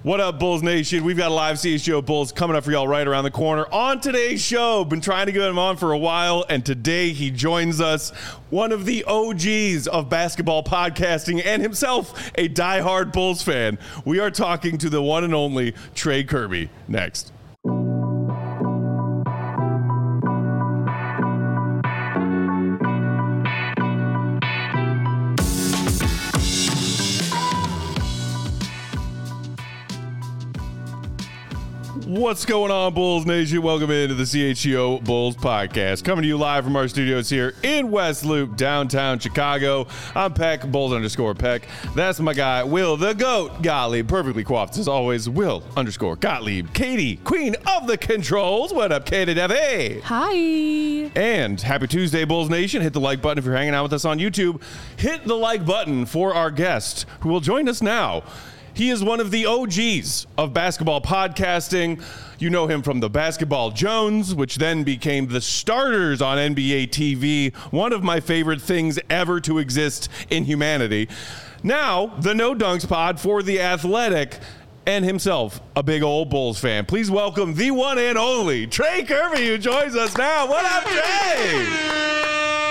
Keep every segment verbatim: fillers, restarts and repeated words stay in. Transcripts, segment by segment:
What up, Bulls Nation? We've got a live C H G O Bulls coming up for y'all right around the corner. On today's show, been trying to get him on for a while, and today he joins us, one of the O Gs of basketball podcasting and himself a diehard Bulls fan. We are talking to the one and only Trey Kirby. Next. What's going on, Bulls Nation? Welcome into the C H G O Bulls podcast. Coming to you live from our studios here in West Loop, downtown Chicago. I'm Peck, Bulls underscore Peck. That's my guy, Will the GOAT Gottlieb. Perfectly coiffed as always, Will underscore Gottlieb. Katie, queen of the controls. What up, Katie Devi? Hi. And happy Tuesday, Bulls Nation. Hit the like button if you're hanging out with us on YouTube. Hit the like button for our guest who will join us now. He is one of the O Gs of basketball podcasting. You know him from the Basketball Jones, which then became the Starters on N B A T V, one of my favorite things ever to exist in humanity. Now, the No Dunks Pod for The Athletic, and himself, a big old Bulls fan. Please welcome the one and only Trey Kirby, who joins us now. What up, Trey?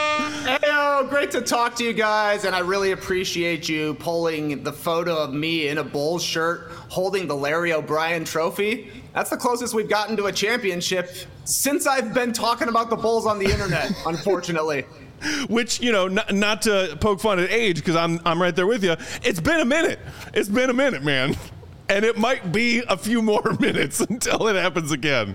Heyo, great to talk to you guys, and I really appreciate you pulling the photo of me in a Bulls shirt holding the Larry O'Brien trophy. That's the closest we've gotten to a championship since I've been talking about the Bulls on the internet, unfortunately. Which, you know, not, not to poke fun at age, because I'm I'm right there with you. It's been a minute. It's been a minute, man. And it might be a few more minutes until it happens again.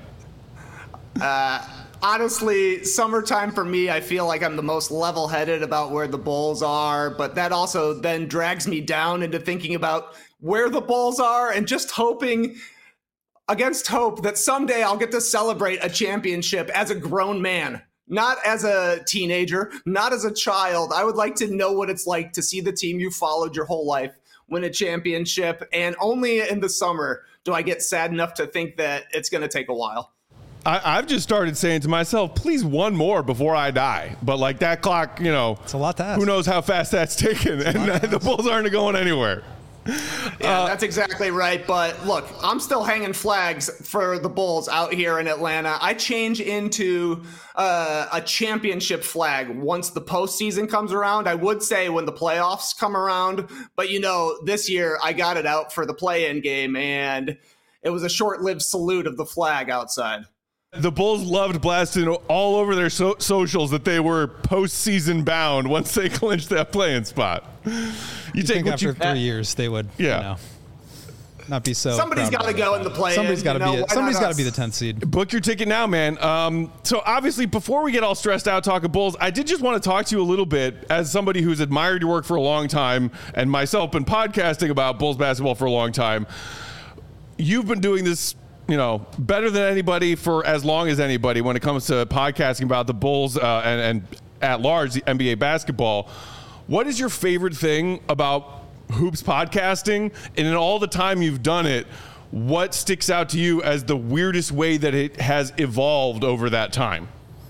Uh... Honestly, summertime for me, I feel like I'm the most level-headed about where the Bulls are, but that also then drags me down into thinking about where the Bulls are and just hoping, against hope, that someday I'll get to celebrate a championship as a grown man, not as a teenager, not as a child. I would like to know what it's like to see the team you followed your whole life win a championship, and only in the summer do I get sad enough to think that it's going to take a while. I, I've just started saying to myself, please one more before I die. But like that clock, you know, it's a lot to ask. Who knows how fast that's taken, and uh, the Bulls aren't going anywhere. Yeah, uh, that's exactly right. But look, I'm still hanging flags for the Bulls out here in Atlanta. I change into uh, a championship flag once the postseason comes around. I would say when the playoffs come around, but you know, this year I got it out for the play-in game, and it was a short-lived salute of the flag outside. The Bulls loved blasting all over their so- socials that they were postseason bound once they clinched that playing spot. You, you take think what after you, three years they would, yeah. you know, not be so. Somebody's got to go in the play. Somebody's got to you know, be. A, somebody's got to be the tenth seed. Book your ticket now, man. Um, so obviously, before we get all stressed out talking Bulls, I did just want to talk to you a little bit as somebody who's admired your work for a long time, and myself been podcasting about Bulls basketball for a long time. You've been doing this, you know, better than anybody for as long as anybody when it comes to podcasting about the Bulls uh, and, and at large, the N B A basketball. What is your favorite thing about Hoops podcasting? And in all the time you've done it, what sticks out to you as the weirdest way that it has evolved over that time?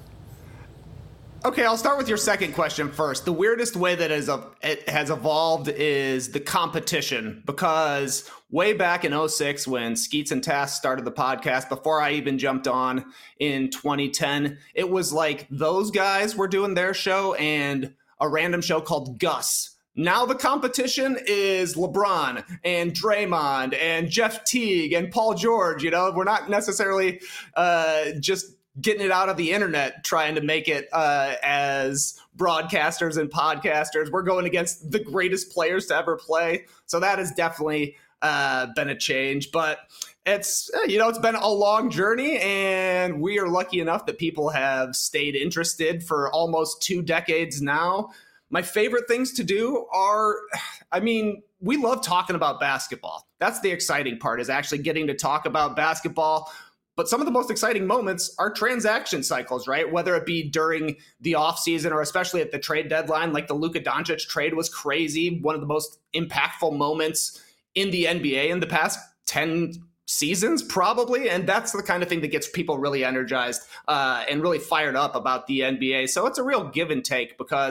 Okay, I'll start with your second question first. The weirdest way that it has evolved is the competition, because way back in oh six when Skeets and Tass started the podcast, before I even jumped on in twenty ten, it was like those guys were doing their show and a random show called Gus. Now the competition is LeBron and Draymond and Jeff Teague and Paul George. You know, we're not necessarily uh, just getting it out of the internet, trying to make it uh, as broadcasters and podcasters. We're going against the greatest players to ever play. So that has definitely uh, been a change, but it's, you know, it's been a long journey, and we are lucky enough that people have stayed interested for almost two decades now. My favorite things to do are, I mean, we love talking about basketball. That's the exciting part, is actually getting to talk about basketball. But some of the most exciting moments are transaction cycles, right? Whether it be during the offseason or especially at the trade deadline, like the Luka Doncic trade was crazy. One of the most impactful moments in the N B A in the past ten seasons, probably. And that's the kind of thing that gets people really energized uh, and really fired up about the N B A. So it's a real give and take, because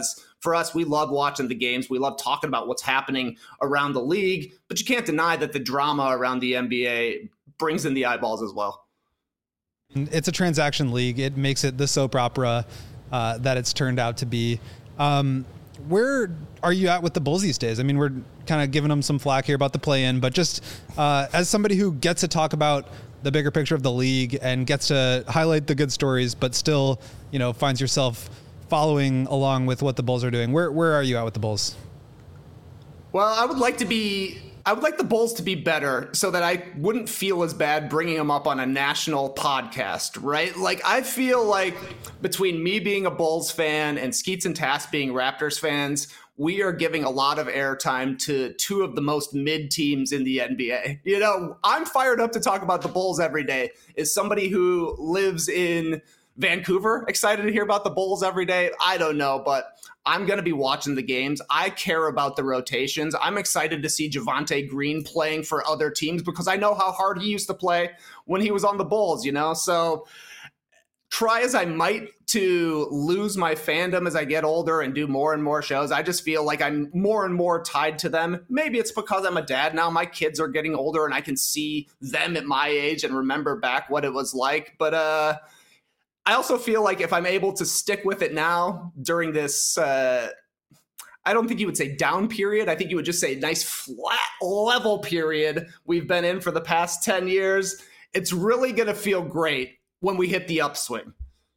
for us, we love watching the games. We love talking about what's happening around the league, but you can't deny that the drama around the N B A brings in the eyeballs as well. It's a transaction league. It makes it the soap opera uh, that it's turned out to be. Um, where are you at with the Bulls these days? I mean, we're kind of giving them some flack here about the play-in, but just uh, as somebody who gets to talk about the bigger picture of the league and gets to highlight the good stories, but still, you know, finds yourself following along with what the Bulls are doing. Where where are you at with the Bulls? Well, I would like to be, I would like the Bulls to be better so that I wouldn't feel as bad bringing them up on a national podcast, right? Like, I feel like between me being a Bulls fan and Skeets and Tass being Raptors fans, we are giving a lot of airtime to two of the most mid teams in the N B A. You know, I'm fired up to talk about the Bulls every day. Is somebody who lives in Vancouver excited to hear about the Bulls every day? I don't know, but I'm going to be watching the games. I care about the rotations. I'm excited to see Javonte Green playing for other teams because I know how hard he used to play when he was on the Bulls, you know? So try as I might to lose my fandom as I get older and do more and more shows, I just feel like I'm more and more tied to them. Maybe it's because I'm a dad now. My kids are getting older and I can see them at my age and remember back what it was like. But uh, I also feel like if I'm able to stick with it now during this, uh, I don't think you would say down period. I think you would just say nice flat level period we've been in for the past ten years. It's really going to feel great when we hit the upswing.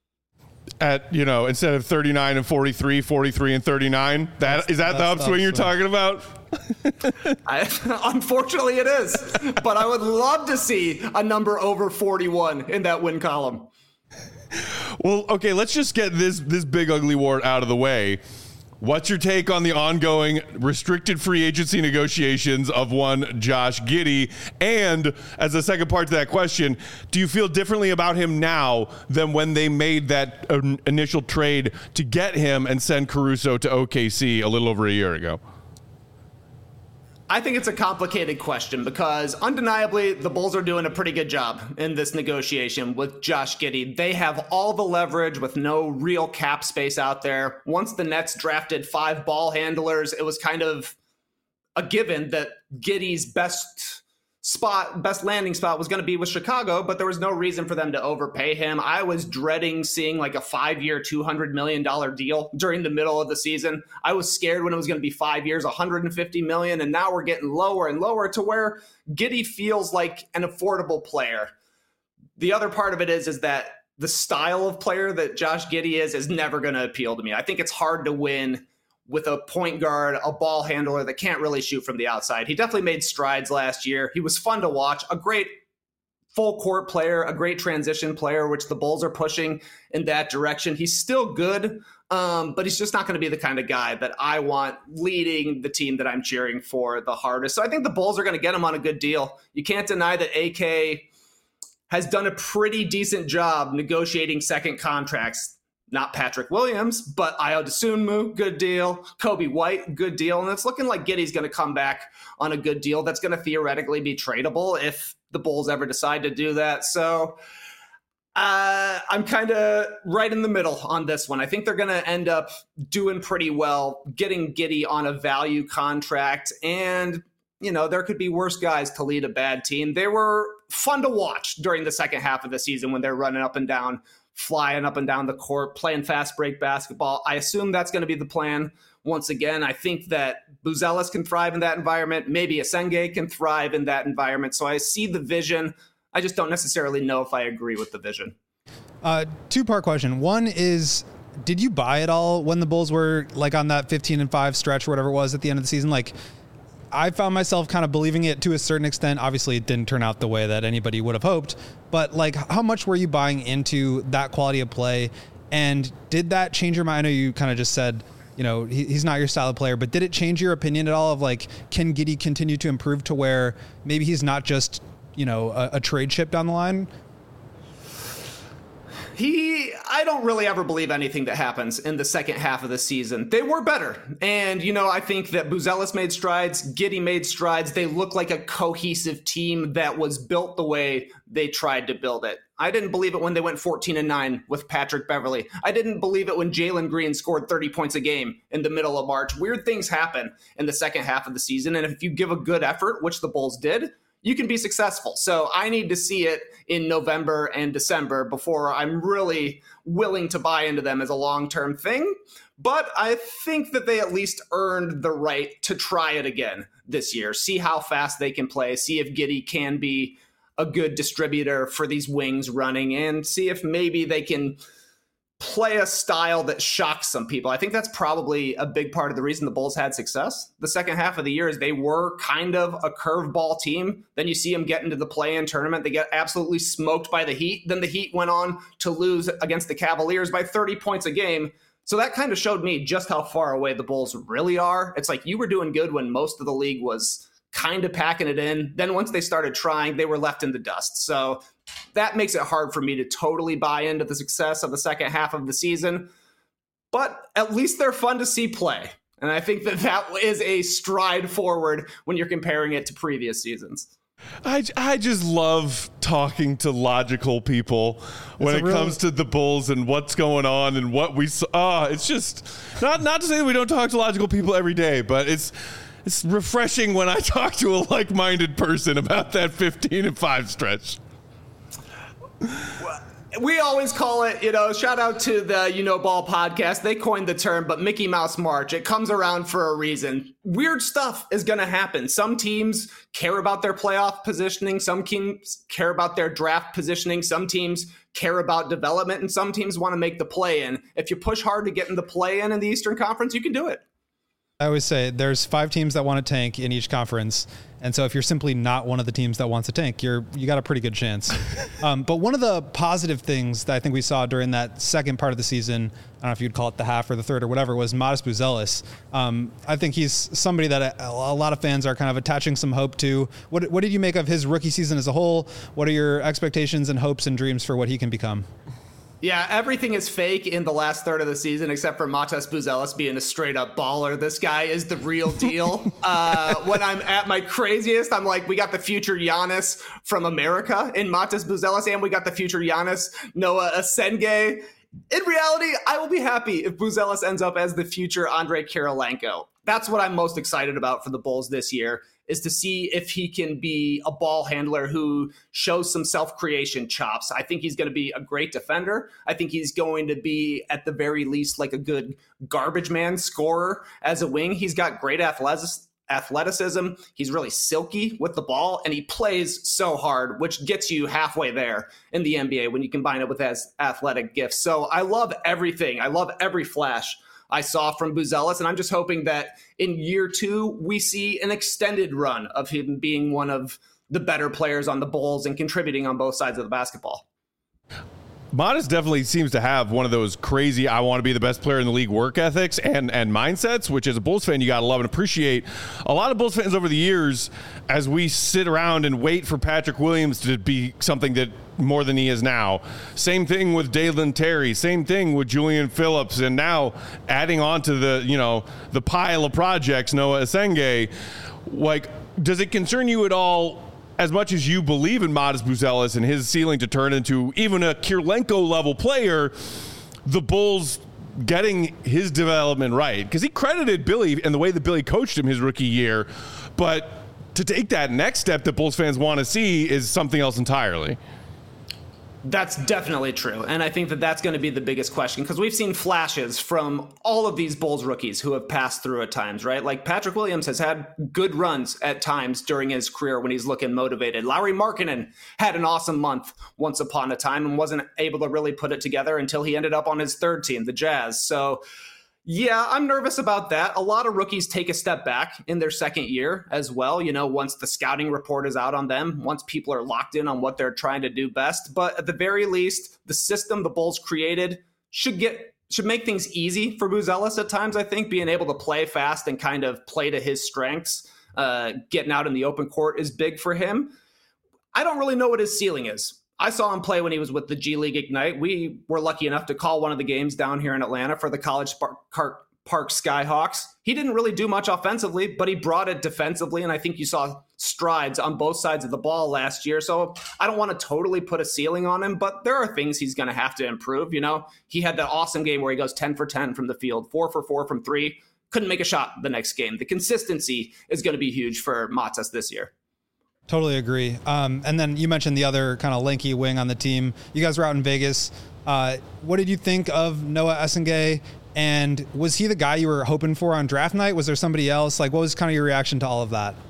At, you know, instead of thirty-nine and forty-three, forty-three and thirty-nine, that that's, is that the upswing, the upswing you're talking about? I, unfortunately, it is. But I would love to see a number over forty-one in that win column. Well, okay, let's just get this this big ugly war out of the way. What's your take on the ongoing restricted free agency negotiations of one Josh Giddey? And as a second part to that question, do you feel differently about him now than when they made that uh, initial trade to get him and send Caruso to O K C a little over a year ago? I think it's a complicated question because undeniably the Bulls are doing a pretty good job in this negotiation with Josh Giddey. They have all the leverage with no real cap space out there. Once the Nets drafted five ball handlers, it was kind of a given that Giddey's best spot, best landing spot was going to be with Chicago, but there was no reason for them to overpay him. I was dreading seeing like a five-year, two hundred million dollars deal during the middle of the season. I was scared when it was going to be five years, one hundred fifty million dollars, and now we're getting lower and lower to where Giddey feels like an affordable player. The other part of it is, is that the style of player that Josh Giddey is is never going to appeal to me. I think it's hard to win with a point guard, a ball handler that can't really shoot from the outside. He definitely made strides last year. He was fun to watch, a great full court player, a great transition player, which the Bulls are pushing in that direction. He's still good, um, but he's just not going to be the kind of guy that I want leading the team that I'm cheering for the hardest. So I think the Bulls are going to get him on a good deal. You can't deny that A K has done a pretty decent job negotiating second contracts. Not Patrick Williams, but Ayo Dosunmu, good deal. Kobe White, good deal. And it's looking like Giddey's going to come back on a good deal that's going to theoretically be tradable if the Bulls ever decide to do that. So uh, I'm kind of right in the middle on this one. I think they're going to end up doing pretty well, getting Giddey on a value contract. And, you know, there could be worse guys to lead a bad team. They were fun to watch during the second half of the season when they're running up and down, flying up and down the court, playing fast break basketball. I assume that's going to be the plan. Once again, I think that Buzelis can thrive in that environment. Maybe Asenge can thrive in that environment. So I see the vision. I just don't necessarily know if I agree with the vision. Uh, two-part question. One is, did you buy it all when the Bulls were like on that fifteen and five stretch or whatever it was at the end of the season? Like, I found myself kind of believing it to a certain extent. Obviously, it didn't turn out the way that anybody would have hoped. But, like, how much were you buying into that quality of play? And did that change your mind? I know you kind of just said, you know, he, he's not your style of player. But did it change your opinion at all of, like, can Giddey continue to improve to where maybe he's not just, you know, a, a trade chip down the line? He, I don't really ever believe anything that happens in the second half of the season. They were better. And, you know, I think that Buzelis made strides, Giddey made strides. They look like a cohesive team that was built the way they tried to build it. I didn't believe it when they went fourteen and nine with Patrick Beverley. I didn't believe it when Jalen Green scored thirty points a game in the middle of March. Weird things happen in the second half of the season. And if you give a good effort, which the Bulls did, you can be successful. So I need to see it in November and December before I'm really willing to buy into them as a long-term thing. But I think that they at least earned the right to try it again this year. See how fast they can play. See if Giddey can be a good distributor for these wings running, and see if maybe they can play a style that shocks some people. I think that's probably a big part of the reason the Bulls had success the second half of the year is they were kind of a curveball team. Then you see them get into the play-in tournament. They get absolutely smoked by the Heat. Then the Heat went on to lose against the Cavaliers by thirty points a game. So that kind of showed me just how far away the Bulls really are. It's like you were doing good when most of the league was kind of packing it in. Then once they started trying, they were left in the dust. So that makes it hard for me to totally buy into the success of the second half of the season. But at least they're fun to see play. And I think that that is a stride forward when you're comparing it to previous seasons. I, I just love talking to logical people when it real... comes to the Bulls and what's going on and what we saw. Oh, it's just not, not to say that we don't talk to logical people every day, but it's, It's refreshing when I talk to a like-minded person about that fifteen and five stretch. We always call it, you know, shout out to the You Know Ball podcast. They coined the term, but Mickey Mouse March, it comes around for a reason. Weird stuff is going to happen. Some teams care about their playoff positioning. Some teams care about their draft positioning. Some teams care about development, and some teams want to make the play-in. If you push hard to get in the play-in in the Eastern Conference, you can do it. I always say there's five teams that want to tank in each conference. And so if you're simply not one of the teams that wants to tank, you're, you got a pretty good chance. um, but one of the positive things that I think we saw during that second part of the season, I don't know if you'd call it the half or the third or whatever, was Modest Buzelis. Um, I think he's somebody that a, a lot of fans are kind of attaching some hope to. What, what did you make of his rookie season as a whole? What are your expectations and hopes and dreams for what he can become? Yeah, everything is fake in the last third of the season except for Matas Buzelis being a straight-up baller. This guy is the real deal. uh, when I'm at my craziest, I'm like, we got the future Giannis from America in Matas Buzelis, and we got the future Giannis, Noah Asenge. In reality, I will be happy if Buzelis ends up as the future Andre Kirilenko. That's what I'm most excited about for the Bulls this year, is to see if he can be a ball handler who shows some self-creation chops. I think he's going to be a great defender. I think he's going to be, at the very least, like a good garbage man scorer as a wing. He's got great athleticism. He's really silky with the ball, and he plays so hard, which gets you halfway there in the N B A when you combine it with his athletic gifts. So I love everything. I love every flash I saw from Buzelis, and I'm just hoping that in year two, we see an extended run of him being one of the better players on the Bulls and contributing on both sides of the basketball. Modest definitely seems to have one of those crazy, I want to be the best player in the league work ethics and, and mindsets, which as a Bulls fan, you got to love and appreciate. A lot of Bulls fans over the years, as we sit around and wait for Patrick Williams to be something that more than he is now. Same thing with Dalen Terry, same thing with Julian Phillips, and now adding on to the, you know, the pile of projects, Noah Asenge. Like, does it concern you at all, as much as you believe in Modest Buzelis and his ceiling to turn into even a Kirilenko level player, the Bulls getting his development right? Because he credited Billy and the way that Billy coached him his rookie year, but to take that next step that Bulls fans want to see is something else entirely. That's definitely true. And I think that that's going to be the biggest question, because we've seen flashes from all of these Bulls rookies who have passed through at times, right? Like Patrick Williams has had good runs at times during his career when he's looking motivated. Lauri Markkanen had an awesome month once upon a time and wasn't able to really put it together until he ended up on his third team, the Jazz. So yeah, I'm nervous about that. A lot of rookies take a step back in their second year as well. You know, once the scouting report is out on them, once people are locked in on what they're trying to do best. But at the very least, the system the Bulls created should get should make things easy for Buzelis at times, I think. Being able to play fast and kind of play to his strengths, uh, getting out in the open court is big for him. I don't really know what his ceiling is. I saw him play when he was with the G League Ignite. We were lucky enough to call one of the games down here in Atlanta for the College Park, Park Skyhawks. He didn't really do much offensively, but he brought it defensively, and I think you saw strides on both sides of the ball last year. So I don't want to totally put a ceiling on him, but there are things he's going to have to improve. You know, he had that awesome game where he goes ten for ten from the field, four for four from three, couldn't make a shot the next game. The consistency is going to be huge for Matas this year. Totally agree. Um, and then you mentioned the other kind of lanky wing on the team. You guys were out in Vegas. Uh, what did you think of Noah Essengae? And was he the guy you were hoping for on draft night? Was there somebody else? Like, what was kind of your reaction to all of that?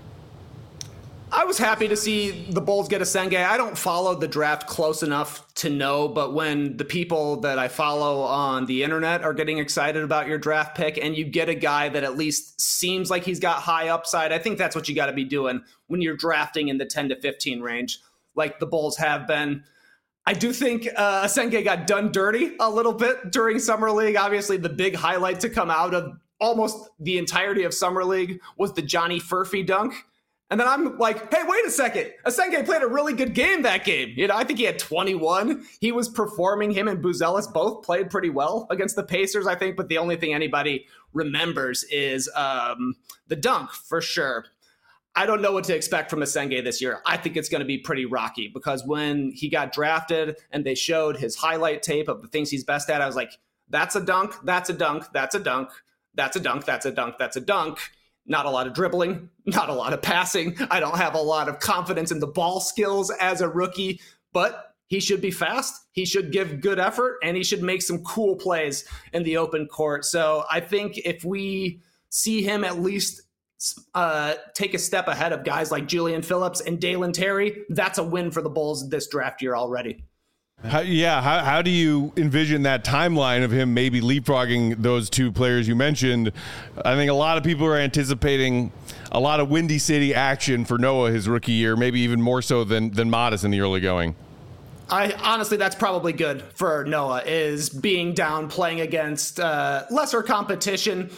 I was happy to see the Bulls get Essengae. I don't follow the draft close enough to know, but when the people that I follow on the internet are getting excited about your draft pick and you get a guy that at least seems like he's got high upside, I think that's what you got to be doing when you're drafting in the ten to fifteen range, like the Bulls have been. I do think uh, Essengae got done dirty a little bit during Summer League. Obviously, the big highlight to come out of almost the entirety of Summer League was the Johnny Furphy dunk. And then I'm like, hey, wait a second. Essengae played a really good game that game. You know, I think he had twenty-one. He was performing. Him and Buzelis both played pretty well against the Pacers, I think. But the only thing anybody remembers is um, the dunk, for sure. I don't know what to expect from Essengae this year. I think it's going to be pretty rocky because when he got drafted and they showed his highlight tape of the things he's best at, I was like, that's a dunk, that's a dunk, that's a dunk, that's a dunk, that's a dunk, that's a dunk. Not a lot of dribbling, not a lot of passing. I don't have a lot of confidence in the ball skills as a rookie, but he should be fast. He should give good effort, and he should make some cool plays in the open court. So I think if we see him at least uh, take a step ahead of guys like Julian Phillips and Dalen Terry, that's a win for the Bulls this draft year already. How, yeah, how, how do you envision that timeline of him maybe leapfrogging those two players you mentioned? I think a lot of people are anticipating a lot of Windy City action for Noah his rookie year, maybe even more so than than Matas in the early going. I honestly, that's probably good for Noah, is being down, playing against uh, lesser competition.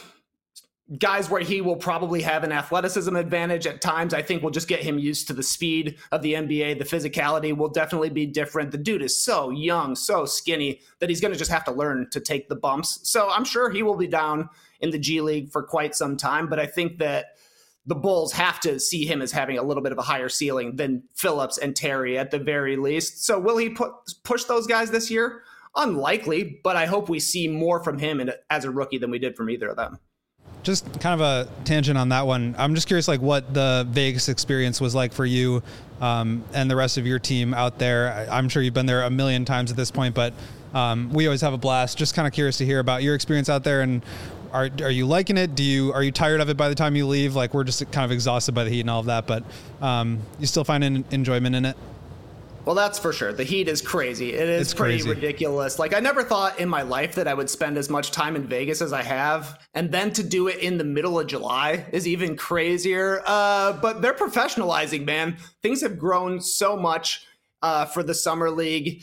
Guys where he will probably have an athleticism advantage at times. I think we'll just get him used to the speed of the N B A. The physicality will definitely be different. The dude is so young, so skinny that he's going to just have to learn to take the bumps. So I'm sure he will be down in the G League for quite some time. But I think that the Bulls have to see him as having a little bit of a higher ceiling than Phillips and Terry at the very least. So will he put, push those guys this year? Unlikely, but I hope we see more from him in, as a rookie than we did from either of them. Just kind of a tangent on that one. I'm just curious, like, what the Vegas experience was like for you um, and the rest of your team out there. I, I'm sure you've been there a million times at this point, but um, we always have a blast. Just kind of curious to hear about your experience out there. And are are you liking it? Do you are you tired of it by the time you leave? Like, we're just kind of exhausted by the heat and all of that, but um, you still find an enjoyment in it? Well, that's for sure. The heat is crazy. It is it's pretty crazy. ridiculous. Like, I never thought in my life that I would spend as much time in Vegas as I have. And then to do it in the middle of July is even crazier. Uh, but they're professionalizing, man. Things have grown so much uh, for the Summer League.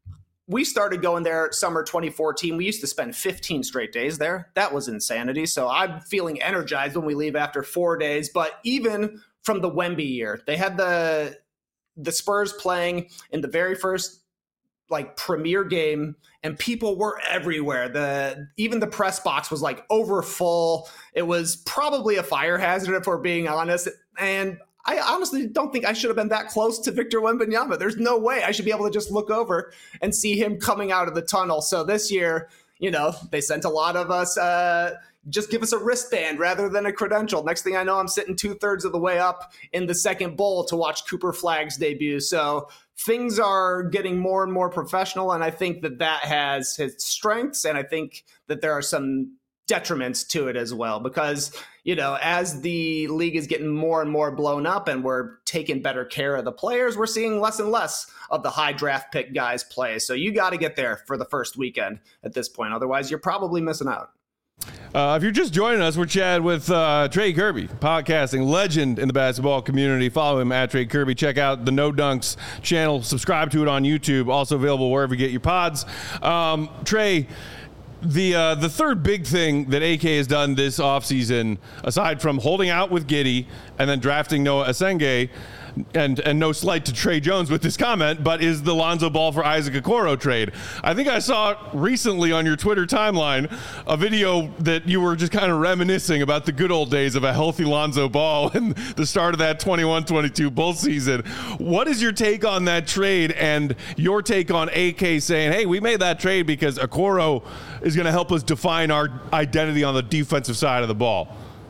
We started going there summer twenty fourteen. We used to spend fifteen straight days there. That was insanity. So I'm feeling energized when we leave after four days. But even from the Wemby year, they had the... the Spurs playing in the very first like premier game, and people were everywhere. The even the press box was like over full. It was probably a fire hazard if we're being honest. And I honestly don't think I should have been that close to Victor Wembanyama. There's no way I should be able to just look over and see him coming out of the tunnel. So this year, you know, they sent a lot of us, uh, just give us a wristband rather than a credential. Next thing I know, I'm sitting two thirds of the way up in the second bowl to watch Cooper Flagg's debut. So things are getting more and more professional. And I think that that has its strengths. And I think that there are some detriments to it as well, because, you know, as the league is getting more and more blown up and we're taking better care of the players, we're seeing less and less of the high draft pick guys play. So you got to get there for the first weekend at this point. Otherwise, you're probably missing out. Uh, if you're just joining us, we're chatting with uh, Trey Kirby, podcasting legend in the basketball community. Follow him at Trey Kirby. Check out the No Dunks channel. Subscribe to it on YouTube. Also available wherever you get your pods. Um, Trey, the uh, the third big thing that A K has done this offseason, aside from holding out with Giddey and then drafting Noah Essengae, and and no slight to Trey Jones with this comment, but is the Lonzo Ball for Isaac Okoro trade. I think I saw recently on your Twitter timeline a video that you were just kind of reminiscing about the good old days of a healthy Lonzo Ball and the start of that twenty-one twenty-two Bulls season. What is your take on that trade and your take on A K saying, hey, we made that trade because Okoro is going to help us define our identity on the defensive side of the ball?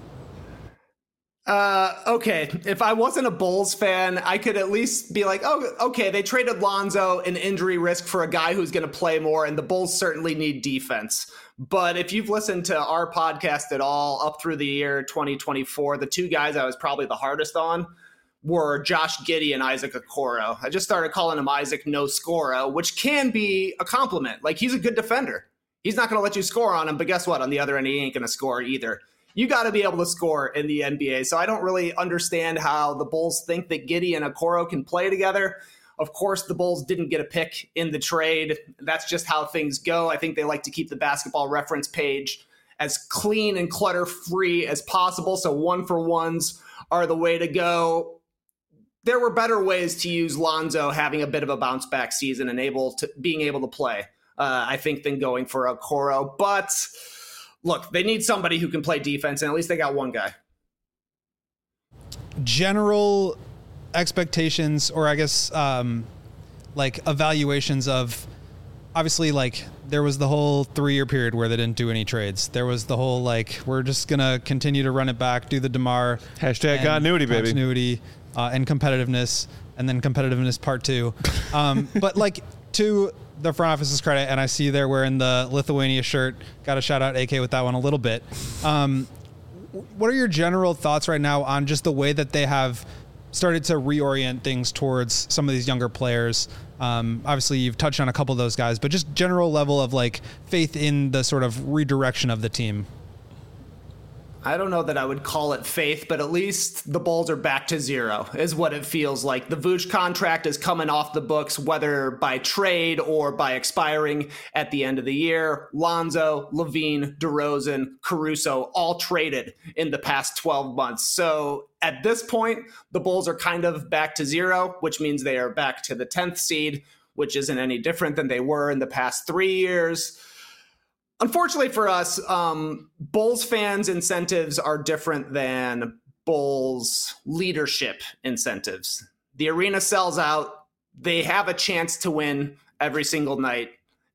Uh, okay, if I wasn't a Bulls fan, I could at least be like, oh, okay, they traded Lonzo, an injury risk for a guy who's going to play more, and the Bulls certainly need defense. But if you've listened to our podcast at all up through the year twenty twenty-four, the two guys I was probably the hardest on were Josh Giddey and Isaac Okoro. I just started calling him Isaac No Scoro, which can be a compliment. Like, he's a good defender. He's not going to let you score on him, but guess what? On the other end, he ain't going to score either. You got to be able to score in the N B A. So I don't really understand how the Bulls think that Giddey and Okoro can play together. Of course, the Bulls didn't get a pick in the trade. That's just how things go. I think they like to keep the Basketball Reference page as clean and clutter-free as possible. So one-for-ones are the way to go. There were better ways to use Lonzo having a bit of a bounce-back season and able to being able to play, uh, I think, than going for Okoro. But look, they need somebody who can play defense, and at least they got one guy. General expectations, or I guess um, like evaluations of, obviously, like there was the whole three-year period where they didn't do any trades. There was the whole like we're just gonna continue to run it back, do the DeMar hashtag continuity, baby, continuity uh, and competitiveness, and then competitiveness part two. Um, but like to the front office's credit, and I see they're wearing the Lithuania shirt. Got to shout out A K with that one a little bit. Um, what are your general thoughts right now on just the way that they have started to reorient things towards some of these younger players? Um, obviously, you've touched on a couple of those guys, but just general level of like faith in the sort of redirection of the team. I don't know that I would call it faith, but at least the Bulls are back to zero is what it feels like. The Vooch contract is coming off the books, whether by trade or by expiring at the end of the year. Lonzo, LaVine, DeRozan, Caruso, all traded in the past twelve months. So at this point, the Bulls are kind of back to zero, which means they are back to the tenth seed, which isn't any different than they were in the past three years. Unfortunately for us, um, Bulls fans' incentives are different than Bulls leadership incentives. The arena sells out. They have a chance to win every single night.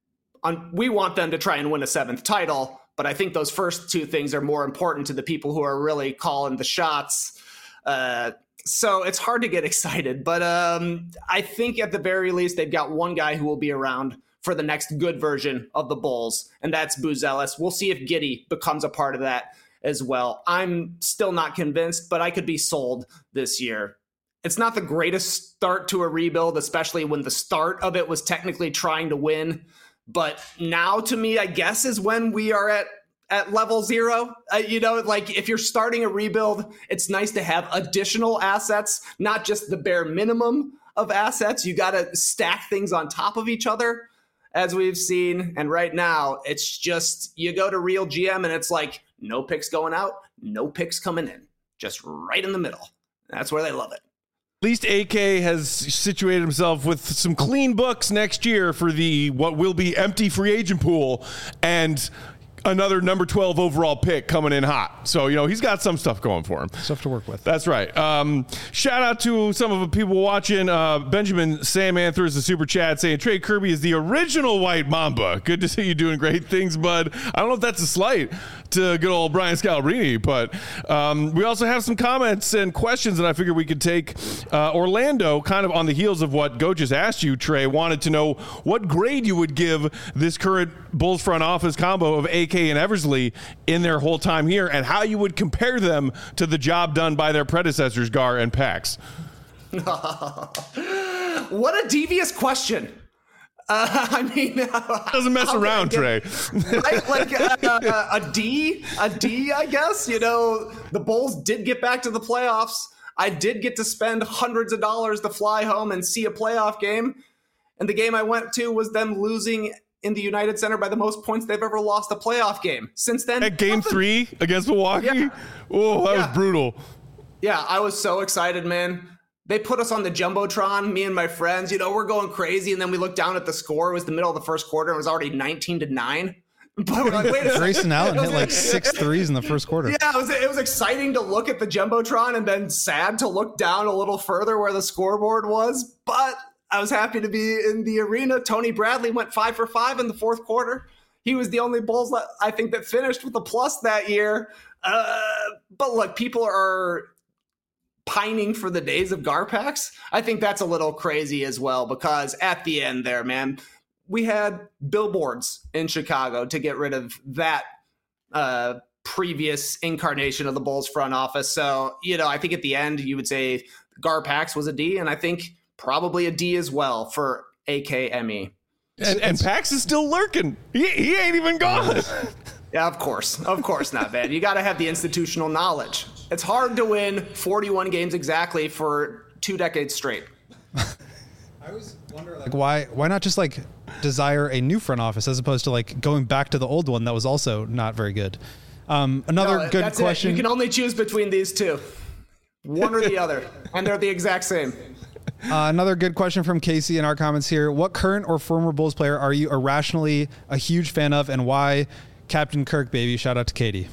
Um, we want them to try and win a seventh title, but I think those first two things are more important to the people who are really calling the shots. Uh, so it's hard to get excited, but um, I think at the very least, they've got one guy who will be around for the next good version of the Bulls, and that's Buzelis. We'll see if Giddey becomes a part of that as well. I'm still not convinced, but I could be sold this year. It's not the greatest start to a rebuild, especially when the start of it was technically trying to win. But now, to me, I guess, is when we are at, at level zero. Uh, you know, like if you're starting a rebuild, it's nice to have additional assets, not just the bare minimum of assets. You got to stack things on top of each other, as we've seen. And right now, it's just you go to Real G M and it's like no picks going out, no picks coming in, just right in the middle. That's where they love it. At least A K has situated himself with some clean books next year for the what will be empty free agent pool and another number twelve overall pick coming in hot. So, you know, he's got some stuff going for him. Stuff to work with. That's right. Um, shout out to some of the people watching. Uh, Benjamin Sam Anthers, the super chat, saying Trey Kirby is the original White Mamba. Good to see you doing great things, bud. I don't know if that's a slight to good old Brian Scalabrine, but um, we also have some comments and questions that I figured we could take. Uh, Orlando, kind of on the heels of what Go just asked you, Trey, wanted to know what grade you would give this current Bulls front office combo of A K and Eversley in their whole time here, and how you would compare them to the job done by their predecessors, Gar and Pax. What a devious question. Uh, I mean, doesn't mess around, get, Trey. Right? Like uh, uh, a D, a D, I guess. You know, the Bulls did get back to the playoffs. I did get to spend hundreds of dollars to fly home and see a playoff game. And the game I went to was them losing in the United Center by the most points they've ever lost a playoff game. Since then, at game nothing. three against Milwaukee, yeah. oh, that yeah. was brutal. Yeah, I was so excited, man. they put us on the Jumbotron, me and my friends, you know, we're going crazy. And then we looked down at the score. It was the middle of the first quarter. It was already nineteen to nine. But we're like, wait a second. Grayson Allen hit like six threes in the first quarter. Yeah, it was, it was exciting to look at the Jumbotron and then sad to look down a little further where the scoreboard was. But I was happy to be in the arena. Tony Bradley went five for five in the fourth quarter. He was the only Bulls that I think that finished with a plus that year. Uh, but look, people are pining for the days of Garpax. I think that's a little crazy as well, because at the end there, man, we had billboards in Chicago to get rid of that uh, previous incarnation of the Bulls front office. So, you know, I think at the end you would say Garpax was a D, and I think probably a D as well for A K M E. And, and Pax is still lurking. He, he ain't even gone. Yeah, of course. Of course not, man. You got to have the institutional knowledge. It's hard to win forty-one games exactly for two decades straight. I always wonder, like, why why not just like desire a new front office as opposed to like going back to the old one that was also not very good. Um, another no, good question. It. You can only choose between these two, one or the other, and they're the exact same. Uh, another good question from Casey in our comments here. What current or former Bulls player are you irrationally a huge fan of, and why? Captain Kirk, baby. Shout out to Katie.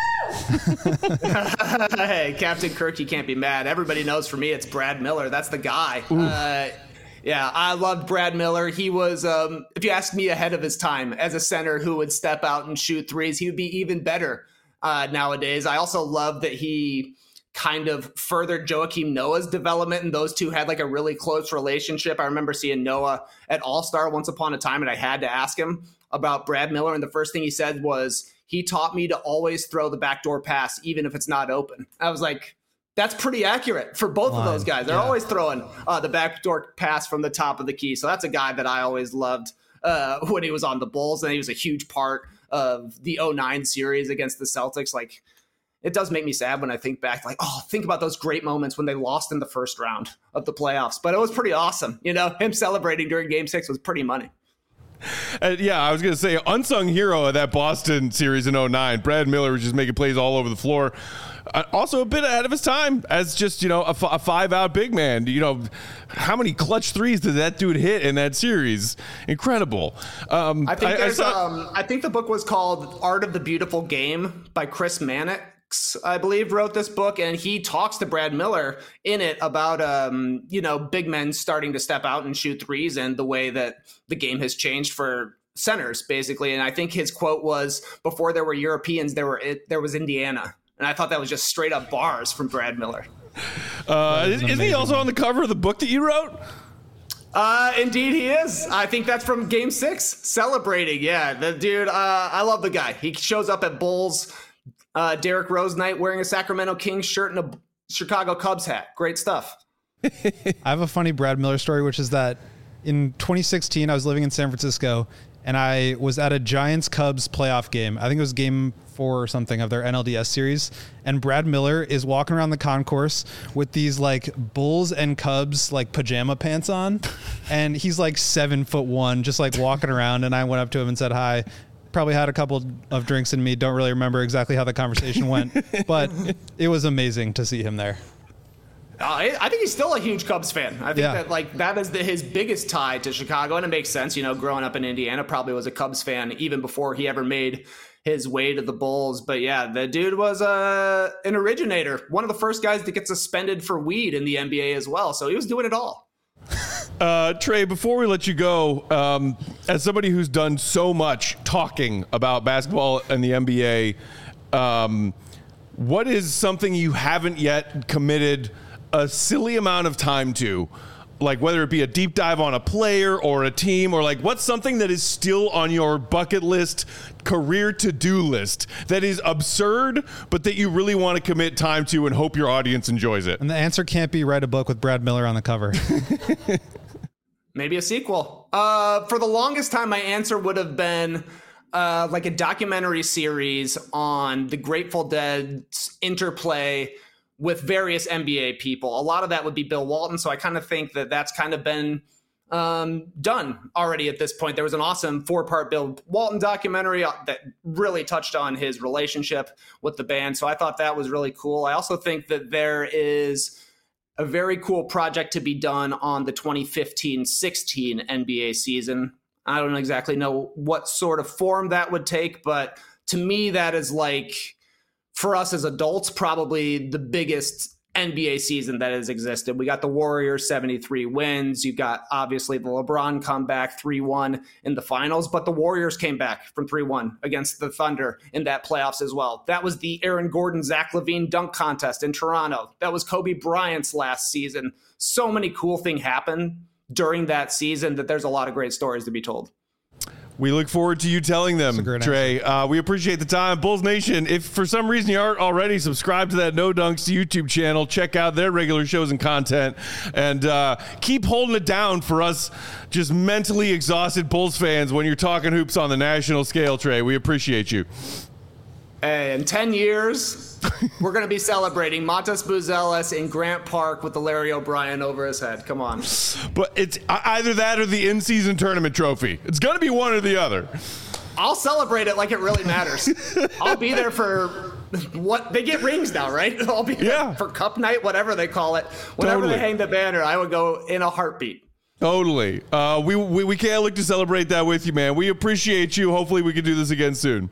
Hey, Captain Kirk, you can't be mad. Everybody knows for me it's Brad Miller. That's the guy. Uh, yeah, I loved Brad Miller. He was, um, if you ask me, ahead of his time as a center who would step out and shoot threes. He would be even better uh, nowadays. I also love that he kind of furthered Joakim Noah's development, and those two had like a really close relationship. I remember seeing Noah at All-Star once upon a time, and I had to ask him about Brad Miller, and the first thing he said was, he taught me to always throw the backdoor pass, even if it's not open. I was like, that's pretty accurate for both Line. of those guys. They're yeah. always throwing uh, the backdoor pass from the top of the key. So that's a guy that I always loved uh, when he was on the Bulls, and he was a huge part of the oh nine series against the Celtics. Like, it does make me sad when I think back, like, oh, think about those great moments when they lost in the first round of the playoffs. But it was pretty awesome. You know, him celebrating during game six was pretty money. Uh, yeah, I was going to say, unsung hero of that Boston series in oh nine. Brad Miller was just making plays all over the floor. Uh, also a bit ahead of his time as just, you know, a, f- a five-out big man. You know, how many clutch threes did that dude hit in that series? Incredible. Um, I think I, there's, I saw- um, I think the book was called Art of the Beautiful Game by Chris Mannix, I believe, wrote this book, and he talks to Brad Miller in it about, um, you know, big men starting to step out and shoot threes and the way that the game has changed for centers, basically. And I think his quote was, before there were Europeans, there were there was Indiana. And I thought that was just straight up bars from Brad Miller. Uh, isn't he also on the cover of the book that you wrote? Uh, indeed he is. I think that's from game six, celebrating. Yeah, the dude, uh, I love the guy. He shows up at Bulls Uh, Derrick Rose night wearing a Sacramento Kings shirt and a Chicago Cubs hat. Great stuff. I have a funny Brad Miller story, which is that in twenty sixteen, I was living in San Francisco, and I was at a Giants-Cubs playoff game. I think it was game four or something of their N L D S series. And Brad Miller is walking around the concourse with these like Bulls and Cubs like pajama pants on. And he's like seven foot one, just like walking around. And I went up to him and said hi. Probably had a couple of drinks in me. Don't really remember exactly how the conversation went, but it was amazing to see him there. Uh, I think he's still a huge Cubs fan. I think yeah. that like that is the, his biggest tie to Chicago, and it makes sense. You know, growing up in Indiana, probably was a Cubs fan even before he ever made his way to the Bulls. But yeah, the dude was uh, an originator, one of the first guys to get suspended for weed in the N B A as well. So he was doing it all. Uh, Trey, before we let you go, um, as somebody who's done so much talking about basketball and the N B A, um, what is something you haven't yet committed a silly amount of time to? Like whether it be a deep dive on a player or a team, or like what's something that is still on your bucket list, career to-do list that is absurd, but that you really want to commit time to and hope your audience enjoys it? And the answer can't be write a book with Brad Miller on the cover. Maybe a sequel. Uh, for the longest time, my answer would have been uh, like a documentary series on the Grateful Dead's interplay with various N B A people. A lot of that would be Bill Walton. So I kind of think that that's kind of been um, done already at this point. There was an awesome four-part Bill Walton documentary that really touched on his relationship with the band. So I thought that was really cool. I also think that there is a very cool project to be done on the twenty fifteen sixteen N B A season. I don't exactly know what sort of form that would take, but to me, that is like, for us as adults, probably the biggest N B A season that has existed. We got the Warriors seventy-three wins. You got obviously the LeBron comeback three one in the finals, but the Warriors came back from three one against the Thunder in that playoffs as well. That was the Aaron Gordon, Zach LaVine dunk contest in Toronto. That was Kobe Bryant's last season. So many cool things happened during that season that there's a lot of great stories to be told. We look forward to you telling them, Trey. Uh, we appreciate the time. Bulls Nation, if for some reason you aren't already subscribed to that No Dunks YouTube channel, check out their regular shows and content. And uh, keep holding it down for us just mentally exhausted Bulls fans when you're talking hoops on the national scale, Trey. We appreciate you. Hey, in ten years, we're going to be celebrating Montes Buzelis in Grant Park with the Larry O'Brien over his head. Come on. But it's either that or the in-season tournament trophy. It's going to be one or the other. I'll celebrate it like it really matters. I'll be there for what they get rings now, right? I'll be there yeah. for Cup Night, whatever they call it. Whenever totally. They hang the banner, I would go in a heartbeat. Totally. Uh, we, we, we can't look to celebrate that with you, man. We appreciate you. Hopefully we can do this again soon.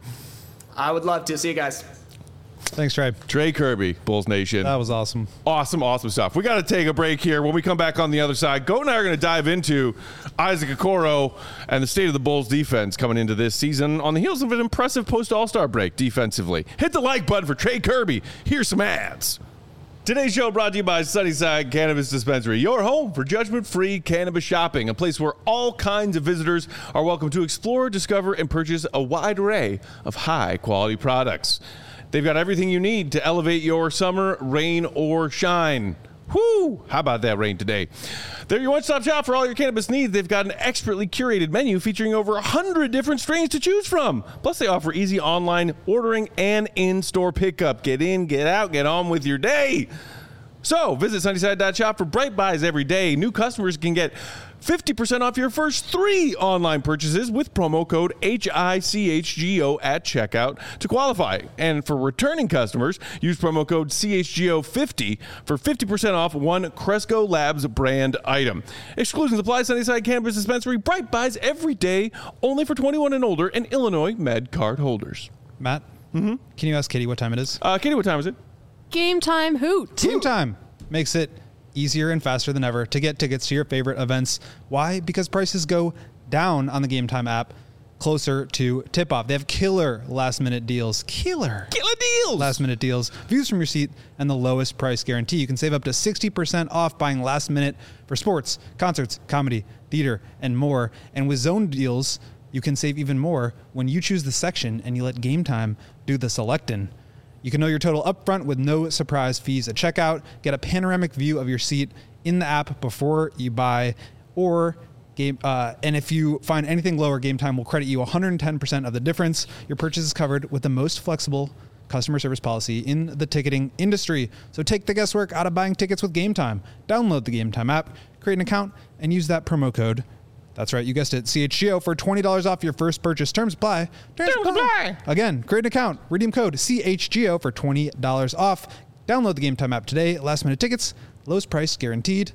I would love to. See you guys. Thanks, Trey. Trey Kirby, Bulls Nation. That was awesome. Awesome, awesome stuff. We got to take a break here. When we come back on the other side, Goat and I are going to dive into Isaac Okoro and the state of the Bulls defense coming into this season on the heels of an impressive post-All-Star break defensively. Hit the like button for Trey Kirby. Here's some ads. Today's show brought to you by Sunnyside Cannabis Dispensary, your home for judgment-free cannabis shopping, a place where all kinds of visitors are welcome to explore, discover, and purchase a wide array of high-quality products. They've got everything you need to elevate your summer, rain, or shine. Whoo! How about that rain today? They're your one-stop shop for all your cannabis needs. They've got an expertly curated menu featuring over one hundred different strains to choose from. Plus, they offer easy online ordering and in-store pickup. Get in, get out, get on with your day. So, visit Sunnyside dot shop for bright buys every day. New customers can get fifty percent off your first three online purchases with promo code H I C H G O at checkout to qualify. And for returning customers, use promo code C H G O fifty for fifty percent off one Cresco Labs brand item. Exclusions apply. Sunnyside Cannabis Dispensary. Bright buys every day, only for twenty-one and older and Illinois Med card holders. Matt, mm-hmm. Can you ask Katie what time it is? Uh, Katie, what time is it? Game time hoot. Game time makes it easier and faster than ever to get tickets to your favorite events. Why? Because prices go down on the Game Time app closer to tip-off. They have killer last-minute deals. Killer. Killer deals. Last-minute deals. Views from your seat and the lowest price guarantee. You can save up to sixty percent off buying last-minute for sports, concerts, comedy, theater, and more. And with zone deals, you can save even more when you choose the section and you let Game Time do the selecting. You can know your total upfront with no surprise fees at checkout. Get a panoramic view of your seat in the app before you buy, or game. Uh, and if you find anything lower, Game Time will credit you one hundred ten percent of the difference. Your purchase is covered with the most flexible customer service policy in the ticketing industry. So take the guesswork out of buying tickets with Game Time. Download the Game Time app, create an account, and use that promo code. That's right, you guessed it, C H G O for twenty dollars off your first purchase. Terms apply. Terms, Terms apply. apply. Again, create an account. Redeem code C H G O for twenty dollars off. Download the Game Time app today. Last minute tickets, lowest price guaranteed.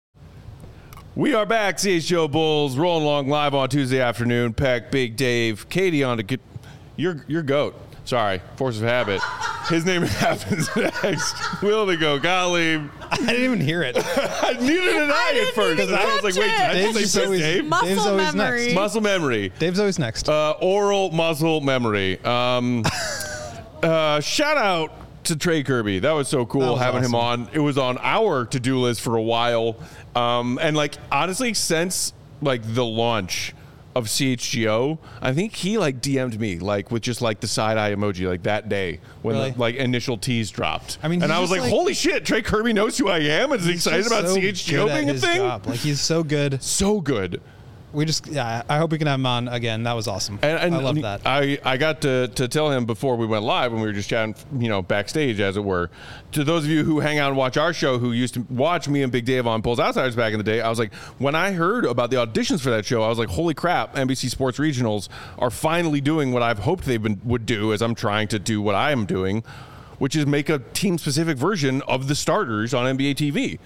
We are back, C H G O Bulls, rolling along live on Tuesday afternoon. Peck, Big Dave, Katie on to get your your goat. Sorry, force of habit. His name happens next. Will they go? Golly. I didn't even hear it. Neither did I, I at first. Because I was like, wait, did I Dave's just say always, Dave? Muscle Dave's always memory. next. Muscle memory. Dave's always next. Uh, oral muscle memory. Um, uh, shout out to Trey Kirby. That was so cool was having awesome. him on. It was on our to-do list for a while. Um, and like, honestly, since like the launch of C H G O, I think he like D M'd me like with just like the side eye emoji like that day when Really? the, like initial tease dropped. I mean, and he's I was just, like, like- holy shit, Trey Kirby knows who I am and is excited He's about so C H G O good at being a his thing. job. Like, he's so good. So good. We just, yeah, I hope we can have him on again. That was awesome. And, and I love that. I, I got to, to tell him before we went live when we were just chatting, you know, backstage, as it were. To those of you who hang out and watch our show, who used to watch me and Big Dave on Bulls Outsiders back in the day, I was like, when I heard about the auditions for that show, I was like, holy crap, N B C Sports Regionals are finally doing what I've hoped they would do as I'm trying to do what I am doing, which is make a team-specific version of the starters on N B A T V.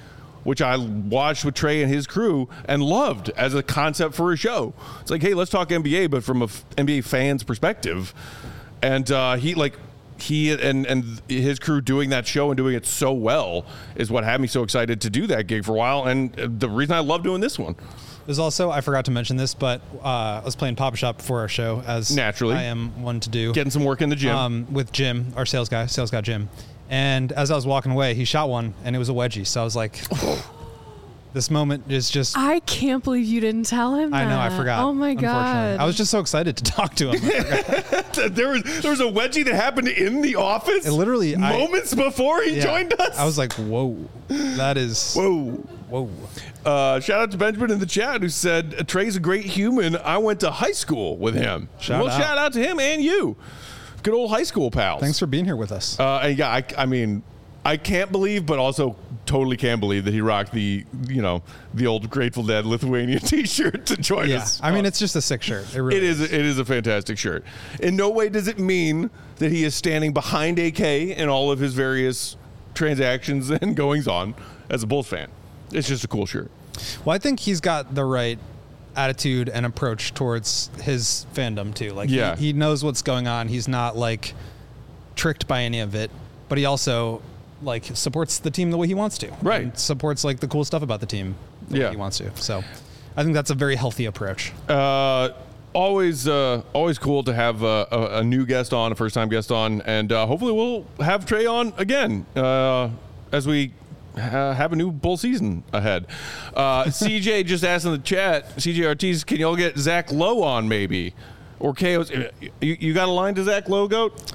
which I watched with Trey and his crew and loved as a concept for a show. It's like, hey, let's talk N B A, but from a f- N B A fan's perspective. And uh, he like he and and his crew doing that show and doing it so well is what had me so excited to do that gig for a while, and the reason I love doing this one. There's also, I forgot to mention this, but uh, I was playing Papa Shop before our show, as Naturally. I am one to do. Getting some work in the gym. Um, with Jim, our sales guy, sales guy Jim. And as I was walking away, he shot one, and it was a wedgie. So I was like, this moment is just... I can't believe you didn't tell him that. I know, I forgot. Oh, my unfortunately. God. I was just so excited to talk to him. there was there was a wedgie that happened in the office It literally... moments I, before he yeah, joined us. I was like, whoa. That is... Whoa. Whoa. Uh, shout out to Benjamin in the chat who said, Trey's a great human. I went to high school with him. Shout well, out. shout out to him and you. Good old high school pals. Thanks for being here with us. Uh, and yeah, I, I mean, I can't believe, but also totally can believe that he rocked the, you know, the old Grateful Dead Lithuania T-shirt to join yeah. us. I mean, it's just a sick shirt. It really It is. It is a fantastic shirt. In no way does it mean that he is standing behind A K in all of his various transactions and goings on as a Bulls fan. It's just a cool shirt. Well, I think he's got the right attitude and approach towards his fandom too. Like, Yeah. he, he knows what's going on. He's not like tricked by any of it, but he also like supports the team the way he wants to. Right. And supports like the cool stuff about the team the Yeah. way he wants to. So I think that's a very healthy approach. Uh, always, uh, always cool to have uh, a, a new guest on, a first-time guest on, and uh, hopefully we'll have Trey on again uh, as we uh, have a new Bull season ahead. Uh, C J just asked in the chat, C J Ortiz, can y'all get Zach Lowe on maybe? Or K O's, you, you got a line to Zach Lowe, Goat?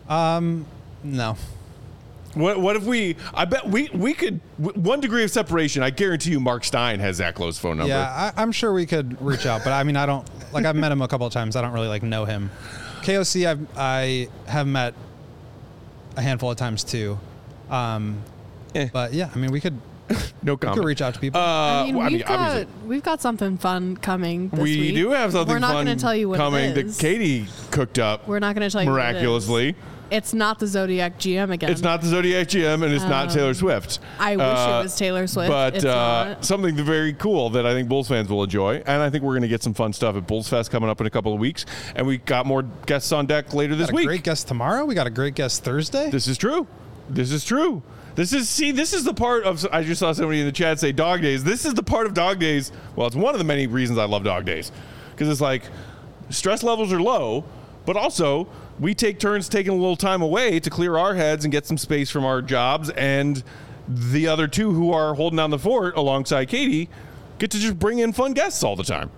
No. What, what if we, I bet we, we could, one degree of separation, I guarantee you Mark Stein has Zach Lowe's phone number. Yeah, I, I'm sure we could reach out, but I mean, I don't like. I've met him a couple of times. I don't really like know him. K O C, I've, I have met a handful of times too. Um, Eh. But yeah, I mean, we could No we comment. could reach out to people. Uh, I mean, well, we've got obviously- we've got something fun coming this we week. do have something We're not fun going to tell you what coming it is. that Katie cooked up We're not going to tell you what it is. miraculously. It's not the Zodiac G M again. It's not the Zodiac G M and it's not Um, Taylor Swift. I wish Uh, it was Taylor Swift. But It's uh, not. something very cool that I think Bulls fans will enjoy. And I think we're going to get some fun stuff at Bulls Fest coming up in a couple of weeks. And we got more guests on deck later this got a week. great guest tomorrow. We got a great guest Thursday. This is true. This is true. This is, see, this is the part of, I just saw somebody in the chat say Dog Days. This is the part of Dog Days. Well, it's one of the many reasons I love Dog Days. Because it's like, stress levels are low, but also we take turns taking a little time away to clear our heads and get some space from our jobs. And the other two who are holding down the fort alongside Katie get to just bring in fun guests all the time.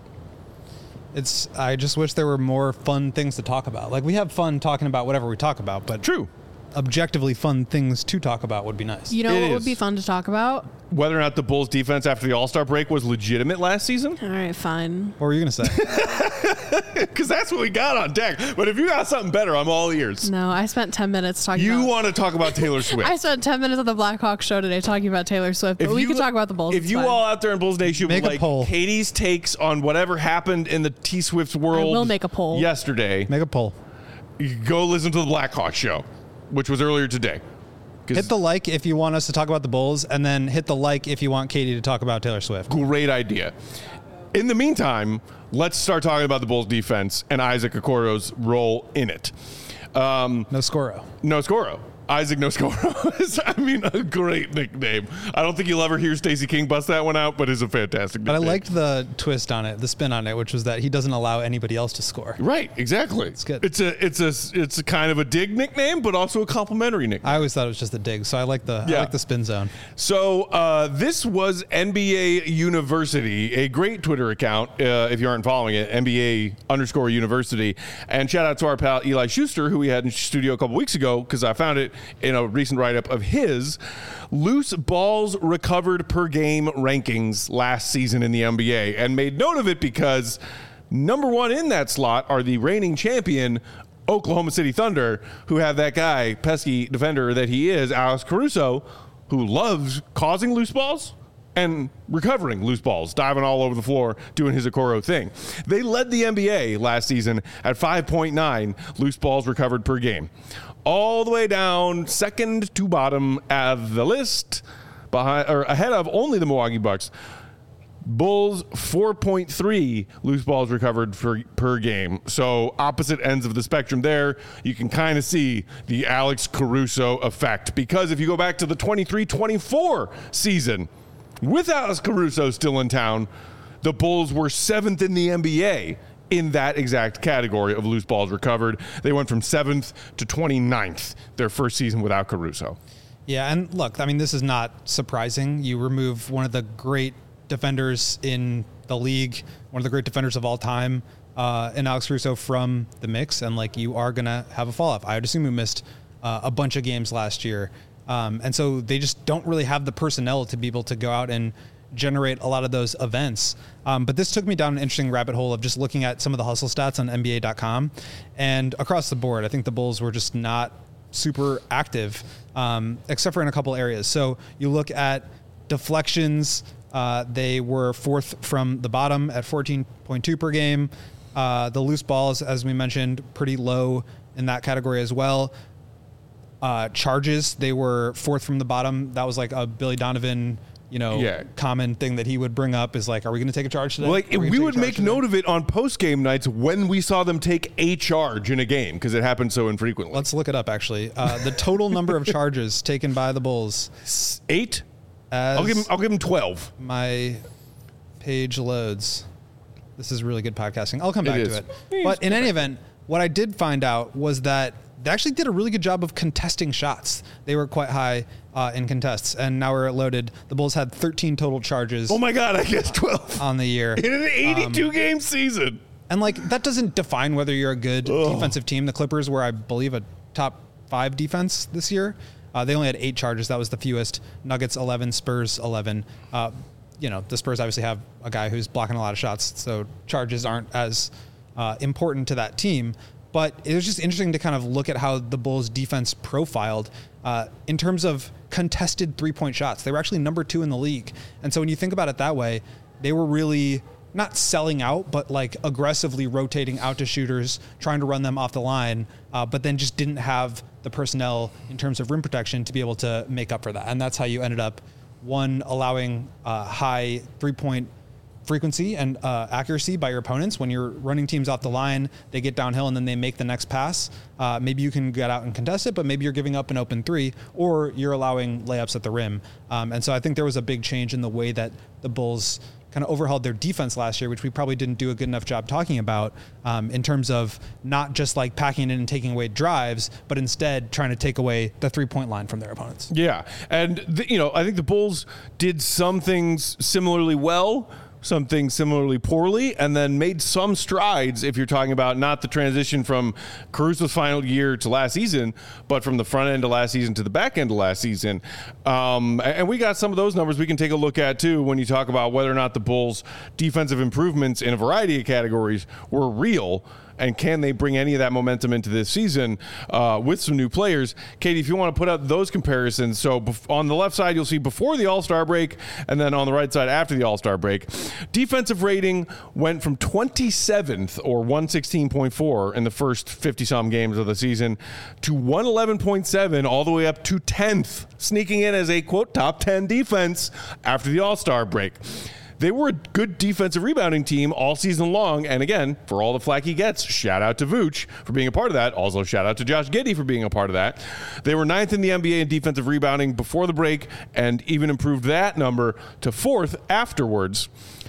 It's. I just wish there were more fun things to talk about. Like, we have fun talking about whatever we talk about, but True. objectively fun things to talk about would be nice. You know It what is. would be fun to talk about? Whether or not the Bulls defense after the All-Star break was legitimate last season. All right, fine. What were you gonna say? Because that's what we got on deck. But if you got something better, I'm all ears. No, I spent ten minutes talking You about want to talk about Taylor Swift. I spent ten minutes on the Blackhawks show today talking about Taylor Swift, but we you- could talk about the Bulls. If it's you fine. all out there in Bulls Nation Make would a like poll. Katie's takes on whatever happened in the T Swift's world will make a poll. yesterday, Make a poll. you go listen to the Blackhawks show, which was earlier today. 'Cause Hit the like if you want us to talk about the Bulls, and then hit the like if you want Katie to talk about Taylor Swift. great idea. In the meantime, let's start talking about the Bulls defense and Isaac Okoro's role in it. Um, No Scoro. no Scoro. Isaac No Scoro is, I mean, a great nickname. I don't think you'll ever hear Stacey King bust that one out, but it's a fantastic But I nickname. liked the twist on it, the spin on it, which was that he doesn't allow anybody else to score. Right, exactly. It's good. It's a it's a it's a kind of a dig nickname, but also a complimentary nickname. I always thought it was just a dig, so I like the Yeah. I like the spin zone. So uh, this was N B A University, a great Twitter account. Uh, if you aren't following it, N B A underscore University. And shout out to our pal Eli Schuster, who we had in studio a couple weeks ago, because I found it in a recent write-up of his loose balls recovered per game rankings last season in the N B A, and made note of it because number one in that slot are the reigning champion Oklahoma City Thunder, who have that guy, pesky defender that he is, Alex Caruso, who loves causing loose balls and recovering loose balls, diving all over the floor, doing his Okoro thing. They led the N B A last season at five point nine loose balls recovered per game. All the way down, second to bottom of the list, behind or ahead of only the Milwaukee Bucks. Bulls four point three loose balls recovered per, per game. So opposite ends of the spectrum there. You can kind of see the Alex Caruso effect, because if you go back to the twenty-three twenty-four season with Alex Caruso still in town, the Bulls were seventh in the N B A in that exact category of loose balls recovered. They went from seventh to twenty-ninth their first season without Caruso. Yeah, and look, I mean, this is not surprising. You remove one of the great defenders in the league, one of the great defenders of all time, uh, and Alex Caruso from the mix, and like you are gonna have a fall off. I would assume we missed uh, a bunch of games last year, um, and so they just don't really have the personnel to be able to go out and generate a lot of those events. Um, but this took me down an interesting rabbit hole of just looking at some of the hustle stats on N B A dot com, and across the board, I think the Bulls were just not super active, um, except for in a couple areas. So you look at deflections. Uh, they were fourth from the bottom at fourteen point two per game. Uh, the loose balls, as we mentioned, pretty low in that category as well. Uh, charges, they were fourth from the bottom. That was like a Billy Donovan, you know, Yeah. common thing that he would bring up is like, are we going to take a charge today? Like, Are we, gonna take would a charge make today? note of it on post-game nights when we saw them take a charge in a game, because it happened so infrequently. Let's look it up, actually. Uh, the total number of charges taken by the Bulls. Eight? As I'll give him. I'll give him twelve. my page loads. This is really good podcasting. I'll come back It to is. it. But in any event, what I did find out was that they actually did a really good job of contesting shots. They were quite high uh, in contests, and now we're loaded. The Bulls had thirteen total charges Oh my God! I guess twelve on the year. in an eighty-two game season. And like that doesn't define whether you're a good defensive team. The Clippers were, I believe, a top five defense this year. Uh, they only had eight charges. That was the fewest. Nuggets eleven, Spurs eleven. Uh, you know, the Spurs obviously have a guy who's blocking a lot of shots, so charges aren't as uh, important to that team. But it was just interesting to kind of look at how the Bulls defense profiled uh, in terms of contested three-point shots. They were actually number two in the league. And so when you think about it that way, they were really not selling out, but like aggressively rotating out to shooters, trying to run them off the line, uh, but then just didn't have the personnel in terms of rim protection to be able to make up for that. And that's how you ended up, one, allowing uh, high three-point frequency and uh, accuracy by your opponents. When you're running teams off the line, they get downhill and then they make the next pass. Uh, maybe you can get out and contest it, but maybe you're giving up an open three, or you're allowing layups at the rim. Um, and so I think there was a big change in the way that the Bulls kind of overhauled their defense last year, which we probably didn't do a good enough job talking about, um, in terms of not just like packing in and taking away drives, but instead trying to take away the three-point line from their opponents. Yeah, and the, you know, I think the Bulls did some things similarly well, some things similarly poorly, and then made some strides if you're talking about not the transition from Caruso's final year to last season, but from the front end of last season to the back end of last season. Um, and we got some of those numbers we can take a look at too when you talk about whether or not the Bulls' defensive improvements in a variety of categories were real. And can they bring any of that momentum into this season uh, with some new players? Katie, if you want to put up those comparisons. So bef- on the left side, you'll see before the All-Star break, and then on the right side after the All-Star break. Defensive rating went from twenty-seventh, or one sixteen point four in the first fifty-some games of the season, to one eleven point seven all the way up to tenth, sneaking in as a, quote, top ten defense after the All-Star break. They were a good defensive rebounding team all season long. And again, for all the flack he gets, shout out to Vooch for being a part of that. Also, shout out to Josh Giddey for being a part of that. They were ninth in the N B A in defensive rebounding before the break, and even improved that number to fourth afterwards.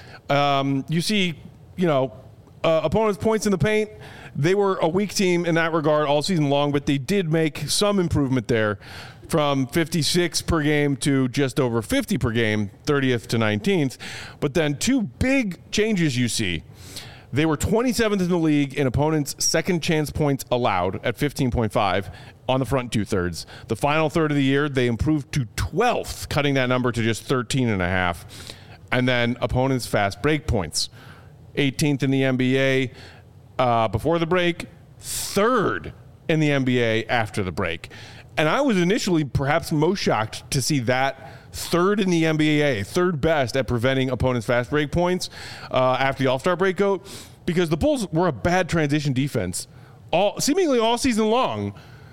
Um, you see, you know, uh, opponents' points in the paint. They were a weak team in that regard all season long, but they did make some improvement there, from fifty-six per game to just over fifty per game, thirtieth to nineteenth. But then two big changes you see. They were twenty-seventh in the league in opponents' second chance points allowed at fifteen point five on the front two-thirds. The final third of the year, they improved to twelfth, cutting that number to just thirteen and a half. And then opponents' fast break points, eighteenth in the N B A uh, before the break, third in the N B A after the break. And I was initially perhaps most shocked to see that third in the N B A, third best at preventing opponents' fast break points uh, after the All-Star breakout, because the Bulls were a bad transition defense all seemingly all season long.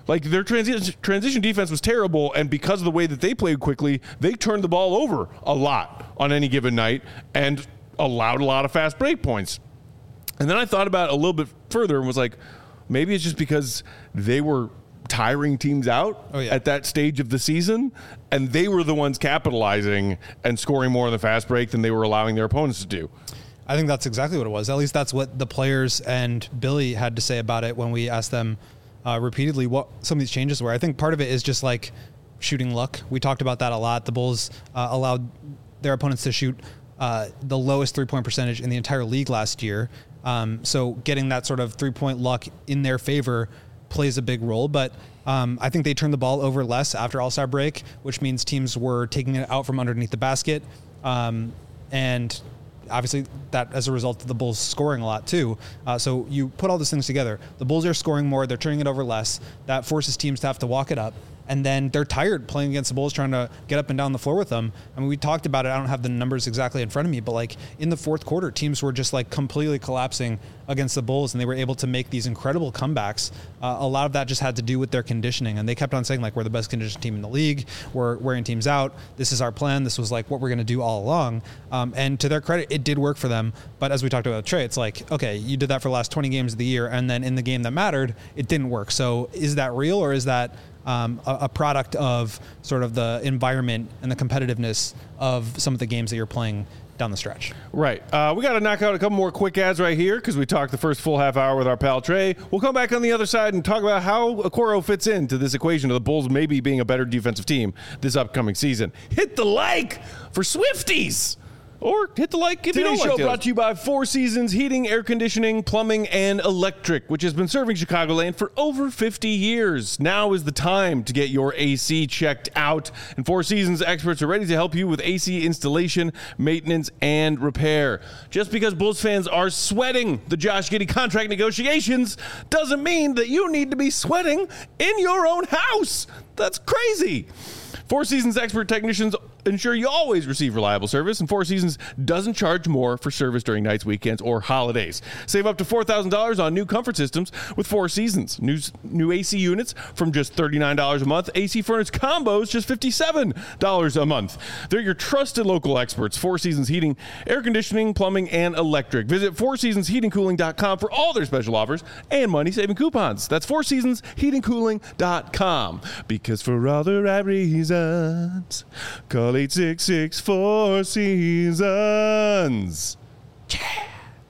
Like their transition transition defense was terrible, and because of the way that they played quickly, they turned the ball over a lot on any given night and allowed a lot of fast break points. And then I thought about it a little bit further and was like, maybe it's just because they were tiring teams out oh, yeah. at that stage of the season, and they were the ones capitalizing and scoring more in the fast break than they were allowing their opponents to do. I think that's exactly what it was. At least that's what the players and Billy had to say about it when we asked them uh, repeatedly what some of these changes were. I think part of it is just like shooting luck. We talked about that a lot. The Bulls uh, allowed their opponents to shoot uh, the lowest three-point percentage in the entire league last year. Um, so getting that sort of three-point luck in their favor plays a big role. But um, I think they turned the ball over less after All-Star break, which means teams were taking it out from underneath the basket. Um, and obviously that as a result of the Bulls scoring a lot too. Uh, so you put all those things together. The Bulls are scoring more. They're turning it over less. That forces teams to have to walk it up. And then they're tired playing against the Bulls, trying to get up and down the floor with them. I mean, we talked about it. I don't have the numbers exactly in front of me, but like in the fourth quarter, teams were just like completely collapsing against the Bulls, and they were able to make these incredible comebacks. Uh, a lot of that just had to do with their conditioning, and they kept on saying like, we're the best conditioned team in the league. We're wearing teams out. This is our plan. This was like what we're going to do all along. Um, and to their credit, it did work for them. But as we talked about with Trey, it's like, okay, you did that for the last twenty games of the year, and then in the game that mattered, it didn't work. So is that real, or is that Um, a, a product of sort of the environment and the competitiveness of some of the games that you're playing down the stretch? Right. Uh, we got to knock out a couple more quick ads right here because we talked the first full half hour with our pal Trey. We'll come back on the other side and talk about how Okoro fits into this equation of the Bulls maybe being a better defensive team this upcoming season. Hit the like for Swifties. Or hit the like if Today's you don't like show it. Brought to you by Four Seasons Heating, Air Conditioning, Plumbing, and Electric, which has been serving Chicagoland for over fifty years. Now is the time to get your A C checked out, and Four Seasons experts are ready to help you with A C installation, maintenance, and repair. Just because Bulls fans are sweating the Josh Giddey contract negotiations doesn't mean that you need to be sweating in your own house. That's crazy. Four Seasons expert technicians ensure you always receive reliable service, and Four Seasons doesn't charge more for service during nights, weekends, or holidays. Save up to four thousand dollars on new comfort systems with Four Seasons. New, new A C units from just thirty-nine dollars a month. A C furnace combos just fifty-seven dollars a month. They're your trusted local experts. Four Seasons Heating, Air Conditioning, Plumbing, and Electric. Visit four seasons heating cooling dot com for all their special offers and money-saving coupons. That's four seasons heating cooling dot com. Because for all the right reasons, call eight six six four seasons. Yeah.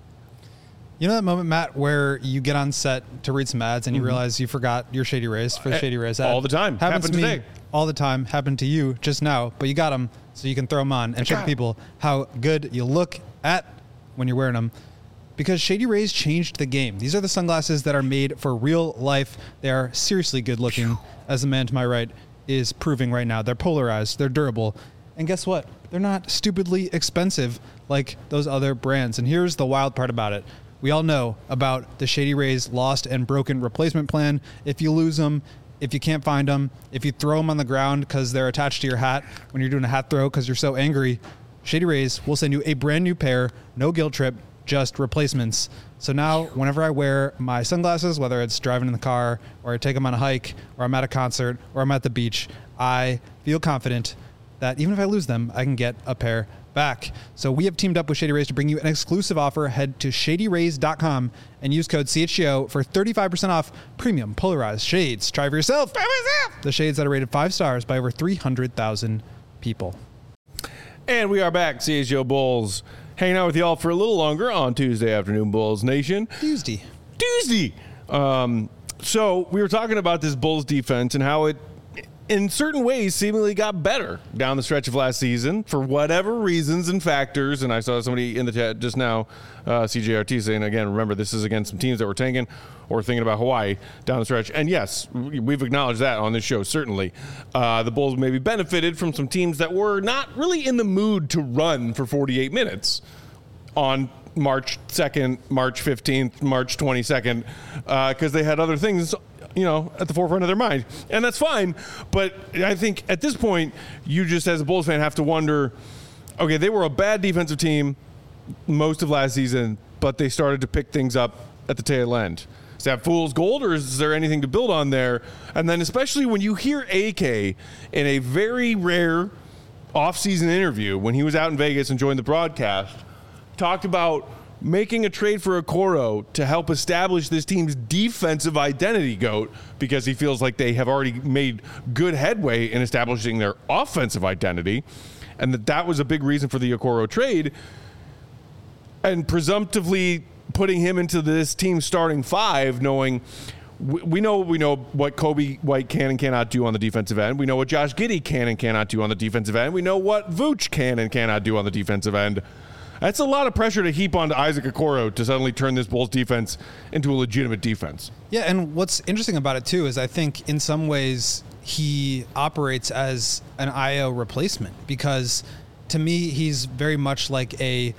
You know that moment, Matt, where you get on set to read some ads and you mm-hmm. realize you forgot your Shady Rays for the Shady Rays ad? All the time. Happens Happened to me today. all the time. Happened to you just now, but you got them so you can throw them on and show people how good you look at when you're wearing them. Because Shady Rays changed the game. These are the sunglasses that are made for real life. They are seriously good looking, as the man to my right is proving right now. They're polarized. They're durable. And guess what? They're not stupidly expensive like those other brands. And here's the wild part about it. We all know about the Shady Rays lost and broken replacement plan. If you lose them, if you can't find them, if you throw them on the ground because they're attached to your hat when you're doing a hat throw because you're so angry, Shady Rays will send you a brand new pair, no guilt trip, just replacements. So now whenever I wear my sunglasses, whether it's driving in the car or I take them on a hike or I'm at a concert or I'm at the beach, I feel confident that even if I lose them, I can get a pair back. So we have teamed up with Shady Rays to bring you an exclusive offer. Head to shady rays dot com and use code C H G O for thirty-five percent off premium polarized shades. Try for yourself. Try for yourself. The shades that are rated five stars by over three hundred thousand people. And we are back, C H G O Bulls, hanging out with y'all for a little longer on Tuesday afternoon, Bulls Nation. Tuesday. Tuesday. Um, so we were talking about this Bulls defense and how it, in certain ways, seemingly got better down the stretch of last season for whatever reasons and factors. And I saw somebody in the chat just now, uh, C J R T, saying, again, remember, this is against some teams that were tanking or thinking about Hawaii down the stretch. And yes, we've acknowledged that on this show, certainly. Uh, the Bulls maybe benefited from some teams that were not really in the mood to run for forty-eight minutes on March second, March fifteenth, March twenty-second, because uh, they had other things, you know, at the forefront of their mind. And that's fine. But I think at this point, you just, as a Bulls fan, have to wonder, okay, they were a bad defensive team most of last season, but they started to pick things up at the tail end. Is that fool's gold, or is there anything to build on there? And then especially when you hear A K in a very rare off-season interview when he was out in Vegas and joined the broadcast, talked about making a trade for Okoro to help establish this team's defensive identity, GOAT, because he feels like they have already made good headway in establishing their offensive identity, and that that was a big reason for the Okoro trade, and presumptively putting him into this team starting five, knowing we, we know we know what Kobe White can and cannot do on the defensive end. We know what Josh Giddey can and cannot do on the defensive end. We know what Vooch can and cannot do on the defensive end. That's a lot of pressure to heap onto Isaac Okoro to suddenly turn this Bulls defense into a legitimate defense. Yeah, and what's interesting about it, too, is I think in some ways he operates as an I O replacement, because to me he's very much like a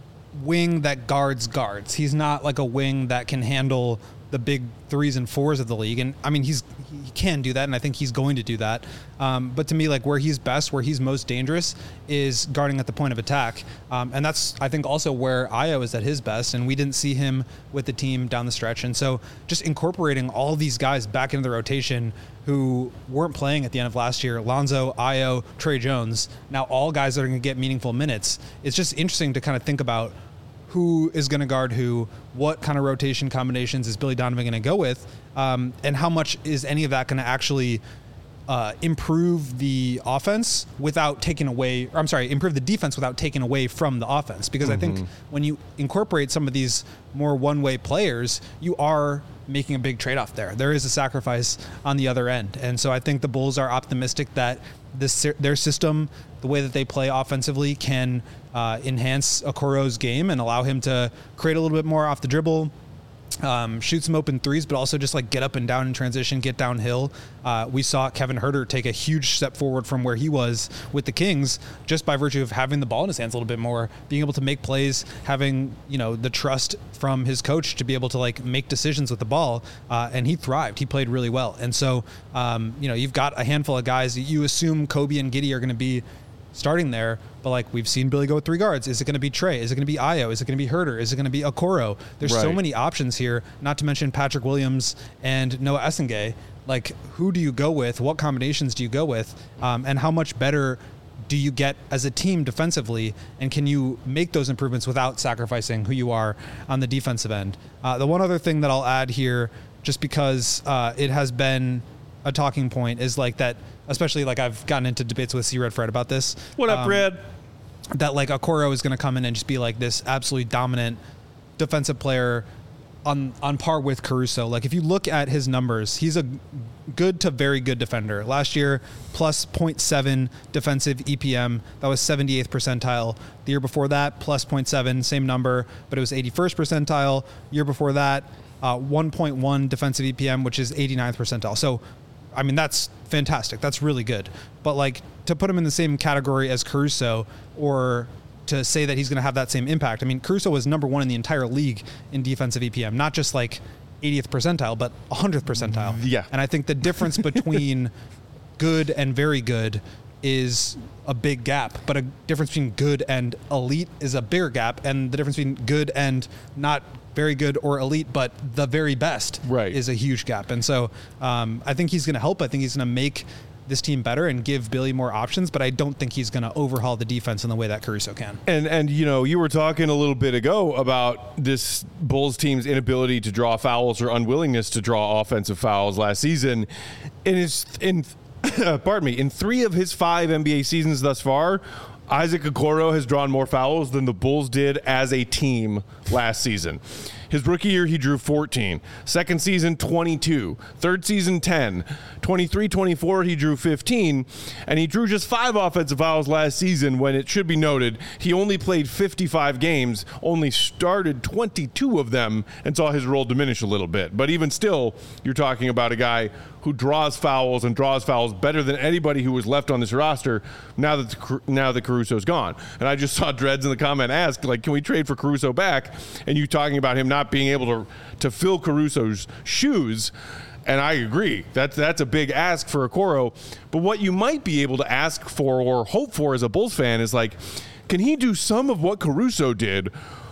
wing that guards guards. He's not like a wing that can handle the big threes and fours of the league. And I mean, he's he can do that, and I think he's going to do that. Um, but to me, like where he's best, where he's most dangerous is guarding at the point of attack. Um, and that's, I think, also where Ayo is at his best. And we didn't see him with the team down the stretch. And so just incorporating all these guys back into the rotation who weren't playing at the end of last year, Lonzo, Ayo, Trey Jones, now all guys that are going to get meaningful minutes. It's just interesting to kind of think about who is going to guard who, what kind of rotation combinations is Billy Donovan going to go with, um, and how much is any of that going to actually uh, improve the offense without taking away, or I'm sorry, improve the defense without taking away from the offense. Because mm-hmm. I think when you incorporate some of these more one-way players, you are making a big trade-off there. There is a sacrifice on the other end. And so I think the Bulls are optimistic that this their system, the way that they play offensively, can uh, enhance Okoro's game and allow him to create a little bit more off the dribble, um, shoot some open threes, but also just like get up and down in transition, get downhill. Uh, we saw Kevin Huerter take a huge step forward from where he was with the Kings just by virtue of having the ball in his hands a little bit more, being able to make plays, having, you know, the trust from his coach to be able to like make decisions with the ball. Uh, and he thrived. He played really well. And so, um, you know, you've got a handful of guys. You assume Kobe and Giddey are going to be starting there, but like we've seen Billy go with three guards. Is it going to be Trey? Is it going to be Ayo? Is it going to be Huerter? Is it going to be Okoro? There's right. so many options here, not to mention Patrick Williams and Noah Essengay. Like, who do you go with? What combinations do you go with? Um, and how much better do you get as a team defensively? And can you make those improvements without sacrificing who you are on the defensive end? Uh, the one other thing that I'll add here, just because uh, it has been a talking point, is like that, especially like I've gotten into debates with C-Red Fred about this. What up, um, Red? That like Okoro is going to come in and just be like this absolutely dominant defensive player on on par with Caruso. Like if you look at his numbers, he's a good to very good defender. Last year, plus zero point seven defensive E P M. That was seventy-eighth percentile. The year before that, plus zero point seven, same number, but it was eighty-first percentile. Year before that, uh, one point one defensive E P M, which is eighty-ninth percentile. So I mean, that's fantastic. That's really good. But like to put him in the same category as Caruso, or to say that he's going to have that same impact. I mean, Caruso was number one in the entire league in defensive E P M, not just like eightieth percentile, but one hundredth percentile. Yeah. And I think the difference between good and very good is a big gap, but a difference between good and elite is a bigger gap. And the difference between good and not very good or elite, but the very best right. is a huge gap. And so um, I think he's going to help. I think he's going to make this team better and give Billy more options, but I don't think he's going to overhaul the defense in the way that Caruso can. And, and you know, you were talking a little bit ago about this Bulls team's inability to draw fouls or unwillingness to draw offensive fouls last season. And it's in, pardon me, in three of his five N B A seasons thus far, Isaac Okoro has drawn more fouls than the Bulls did as a team last season. His rookie year, he drew fourteen. Second season, twenty-two. Third season, ten. twenty-three twenty-four, he drew fifteen. And he drew just five offensive fouls last season when, it should be noted, he only played fifty-five games, only started twenty-two of them, and saw his role diminish a little bit. But even still, you're talking about a guy who draws fouls and draws fouls better than anybody who was left on this roster now that the, now that Caruso's gone. And I just saw Dreads in the comment ask, like, can we trade for Caruso back? And you talking about him not being able to to fill Caruso's shoes. And I agree. That's that's a big ask for Okoro. But what you might be able to ask for or hope for as a Bulls fan is like, can he do some of what Caruso did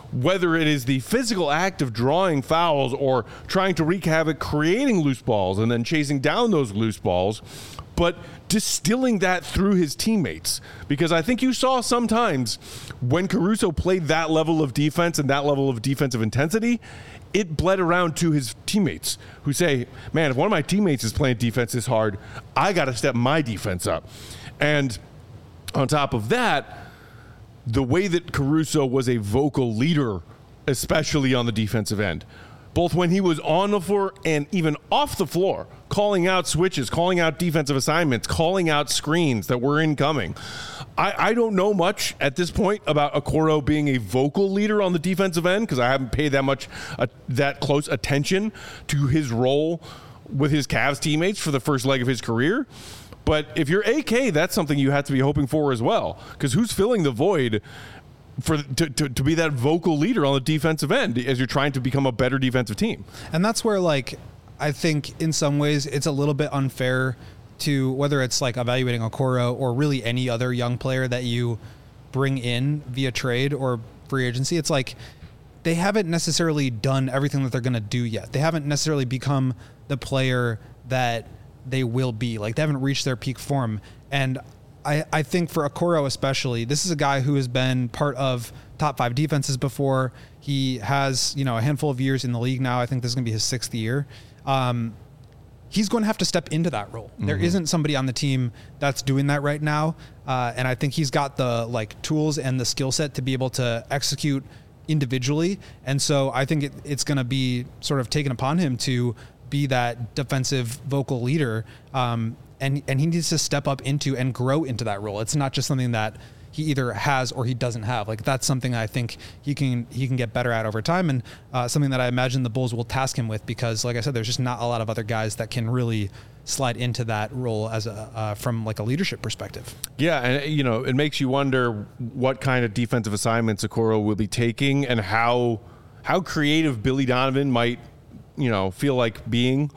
whether it is the physical act of drawing fouls or trying to wreak havoc, creating loose balls and then chasing down those loose balls, but distilling that through his teammates. Because I think you saw sometimes when Caruso played that level of defense and that level of defensive intensity, it bled around to his teammates who say, man, if one of my teammates is playing defense this hard, I got to step my defense up. And on top of that, the way that Caruso was a vocal leader, especially on the defensive end, both when he was on the floor and even off the floor, calling out switches, calling out defensive assignments, calling out screens that were incoming. I, I don't know much at this point about Okoro being a vocal leader on the defensive end because I haven't paid that much, uh, that close attention to his role with his Cavs teammates for the first leg of his career. But if you're A K, that's something you have to be hoping for as well, because who's filling the void for to, to, to be that vocal leader on the defensive end as you're trying to become a better defensive team? And that's where, like, I think in some ways it's a little bit unfair to whether it's like evaluating Okoro or really any other young player that you bring in via trade or free agency. It's like they haven't necessarily done everything that they're going to do yet. They haven't necessarily become the player that they will be. Like, they haven't reached their peak form. And I, I think for Okoro especially, this is a guy who has been part of top five defenses before. He has, you know, a handful of years in the league now. I think this is going to be his sixth year. Um, he's going to have to step into that role. Mm-hmm. There isn't somebody on the team that's doing that right now. Uh, and I think he's got the like tools and the skill set to be able to execute individually. And so I think it, it's going to be sort of taken upon him to be that defensive vocal leader. Um, and, and he needs to step up into and grow into that role. It's not just something that he either has or he doesn't have. Like, that's something I think he can he can get better at over time, and uh, something that I imagine the Bulls will task him with, because, like I said, there's just not a lot of other guys that can really slide into that role as a uh, from like a leadership perspective. Yeah, and you know, it makes you wonder what kind of defensive assignments Okoro will be taking, and how how creative Billy Donovan might, you know, feel like being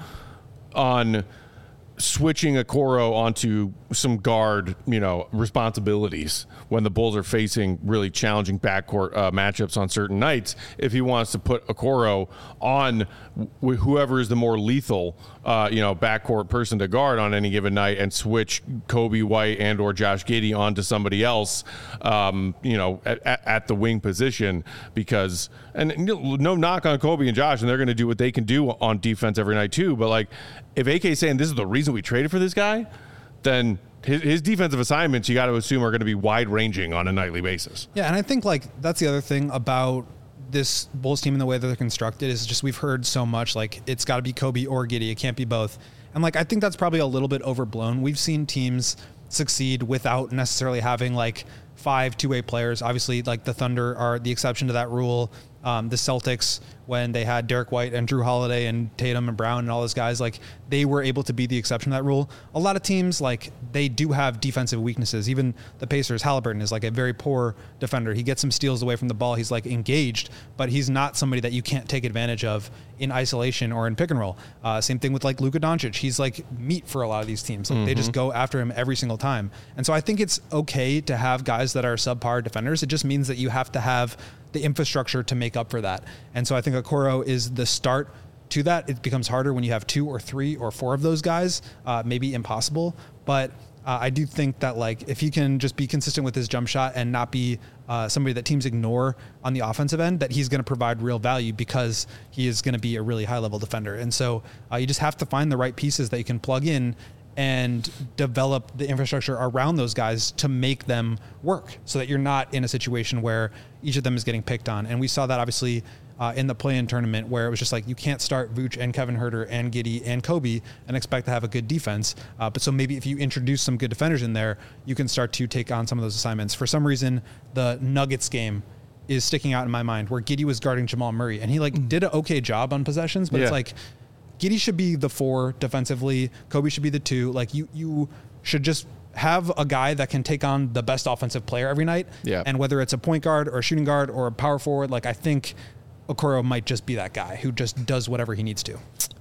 on switching Okoro onto some guard, you know, responsibilities when the Bulls are facing really challenging backcourt uh, matchups on certain nights. If he wants to put Okoro on wh- whoever is the more lethal, uh, you know, backcourt person to guard on any given night, and switch Kobe White and or Josh Giddey onto somebody else, um, you know, at, at, at the wing position, because, and no knock on Kobe and Josh, and they're going to do what they can do on defense every night too. But like, if A K is saying this is the reason we traded for this guy, then his, his defensive assignments, you got to assume, are going to be wide ranging on a nightly basis. Yeah, and I think like that's the other thing about this Bulls team and the way that they're constructed is just we've heard so much like it's got to be Kobe or Giddey. It can't be both. And like I think that's probably a little bit overblown. We've seen teams succeed without necessarily having like five two-way players. Obviously, like the Thunder are the exception to that rule. Um, the Celtics, when they had Derek White and Drew Holiday and Tatum and Brown and all those guys, like they were able to be the exception to that rule. A lot of teams, like they do have defensive weaknesses. Even the Pacers, Halliburton is like a very poor defender. He gets some steals away from the ball. He's like engaged, but he's not somebody that you can't take advantage of in isolation or in pick and roll. Uh, same thing with like Luka Doncic. He's like meat for a lot of these teams. Like mm-hmm. They just go after him every single time. And so I think it's okay to have guys that are subpar defenders. It just means that you have to have the infrastructure to make up for that. And so I think Okoro is the start to that. It becomes harder when you have two or three or four of those guys, uh, maybe impossible. But uh, I do think that like if he can just be consistent with his jump shot and not be uh, somebody that teams ignore on the offensive end, that he's going to provide real value because he is going to be a really high level defender. And so uh, you just have to find the right pieces that you can plug in and develop the infrastructure around those guys to make them work so that you're not in a situation where each of them is getting picked on. And we saw that obviously uh, in the play-in tournament where it was just like, you can't start Vooch and Kevin Huerter and Giddey and Kobe and expect to have a good defense. Uh, but so maybe if you introduce some good defenders in there, you can start to take on some of those assignments. For some reason, the Nuggets game is sticking out in my mind where Giddey was guarding Jamal Murray and he like did an okay job on possessions, but yeah. It's like, Giddey should be the four defensively. Kobe should be the two. Like you, you should just have a guy that can take on the best offensive player every night. Yeah. And whether it's a point guard or a shooting guard or a power forward, like I think Okoro might just be that guy who just does whatever he needs to.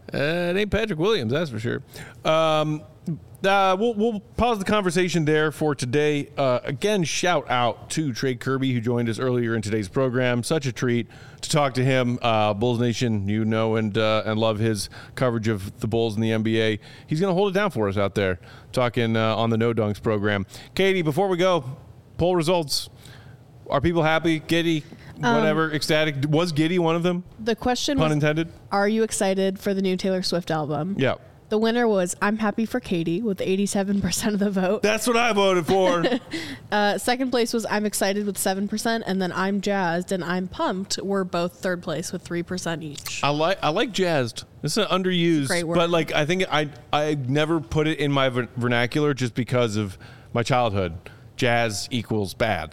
Uh, it ain't Patrick Williams, that's for sure. Um, uh, we'll, we'll pause the conversation there for today. Uh, again, shout out to Trey Kirby, who joined us earlier in today's program. Such a treat to talk to him. Uh, Bulls Nation, you know and uh, and love his coverage of the Bulls in the N B A. He's going to hold it down for us out there, talking uh, on the No Dunks program. Katie, before we go, poll results. Are people happy? Giddy? Whatever? Um, ecstatic? Was Giddy one of them? The question Pun was, intended? Are you excited for the new Taylor Swift album? Yeah. The winner was I'm happy for Katie with eighty-seven percent of the vote. That's what I voted for. uh, second place was I'm excited with seven percent, and then I'm jazzed and I'm pumped were both third place with three percent each. I like I like jazzed. It's an underused, Great word. but like I think I I never put it in my ver- vernacular just because of my childhood. Jazz equals bad.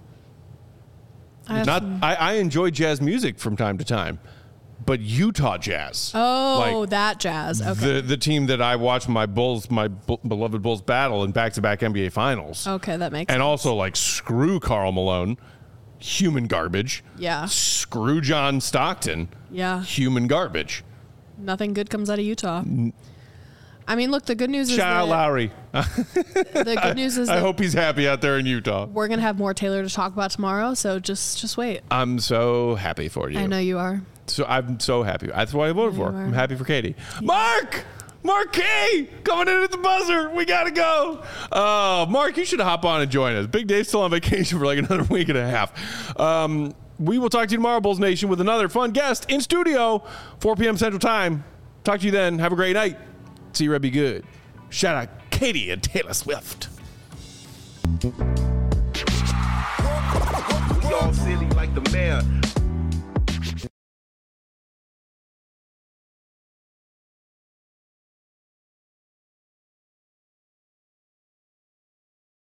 I have Not some- I, I enjoy jazz music from time to time, but Utah Jazz. Oh, like, that jazz. Okay. The the team that I watched my Bulls, my bu- beloved Bulls battle in back-to-back N B A finals. Okay, that makes And sense. also like screw Karl Malone, human garbage. Yeah. Screw John Stockton, Yeah. human garbage. Nothing good comes out of Utah. I mean, look, the good news is Shout out that Lowry. the good news is I that hope he's happy out there in Utah. we're gonna have more Taylor to talk about tomorrow. So just just wait. I'm so happy for you. I know you are. So I'm so happy. That's what I voted You for. are. I'm happy for Katie. Mark! Mark K! Coming in at the buzzer. We got to go. Uh, Mark, you should hop on and join us. Big Dave's still on vacation for like another week and a half. Um, we will talk to you tomorrow, Bulls Nation, with another fun guest in studio, four p.m. Central Time. Talk to you then. Have a great night. See you, Red. Be good. Shout out Katie and Taylor Swift. We all silly like the mayor.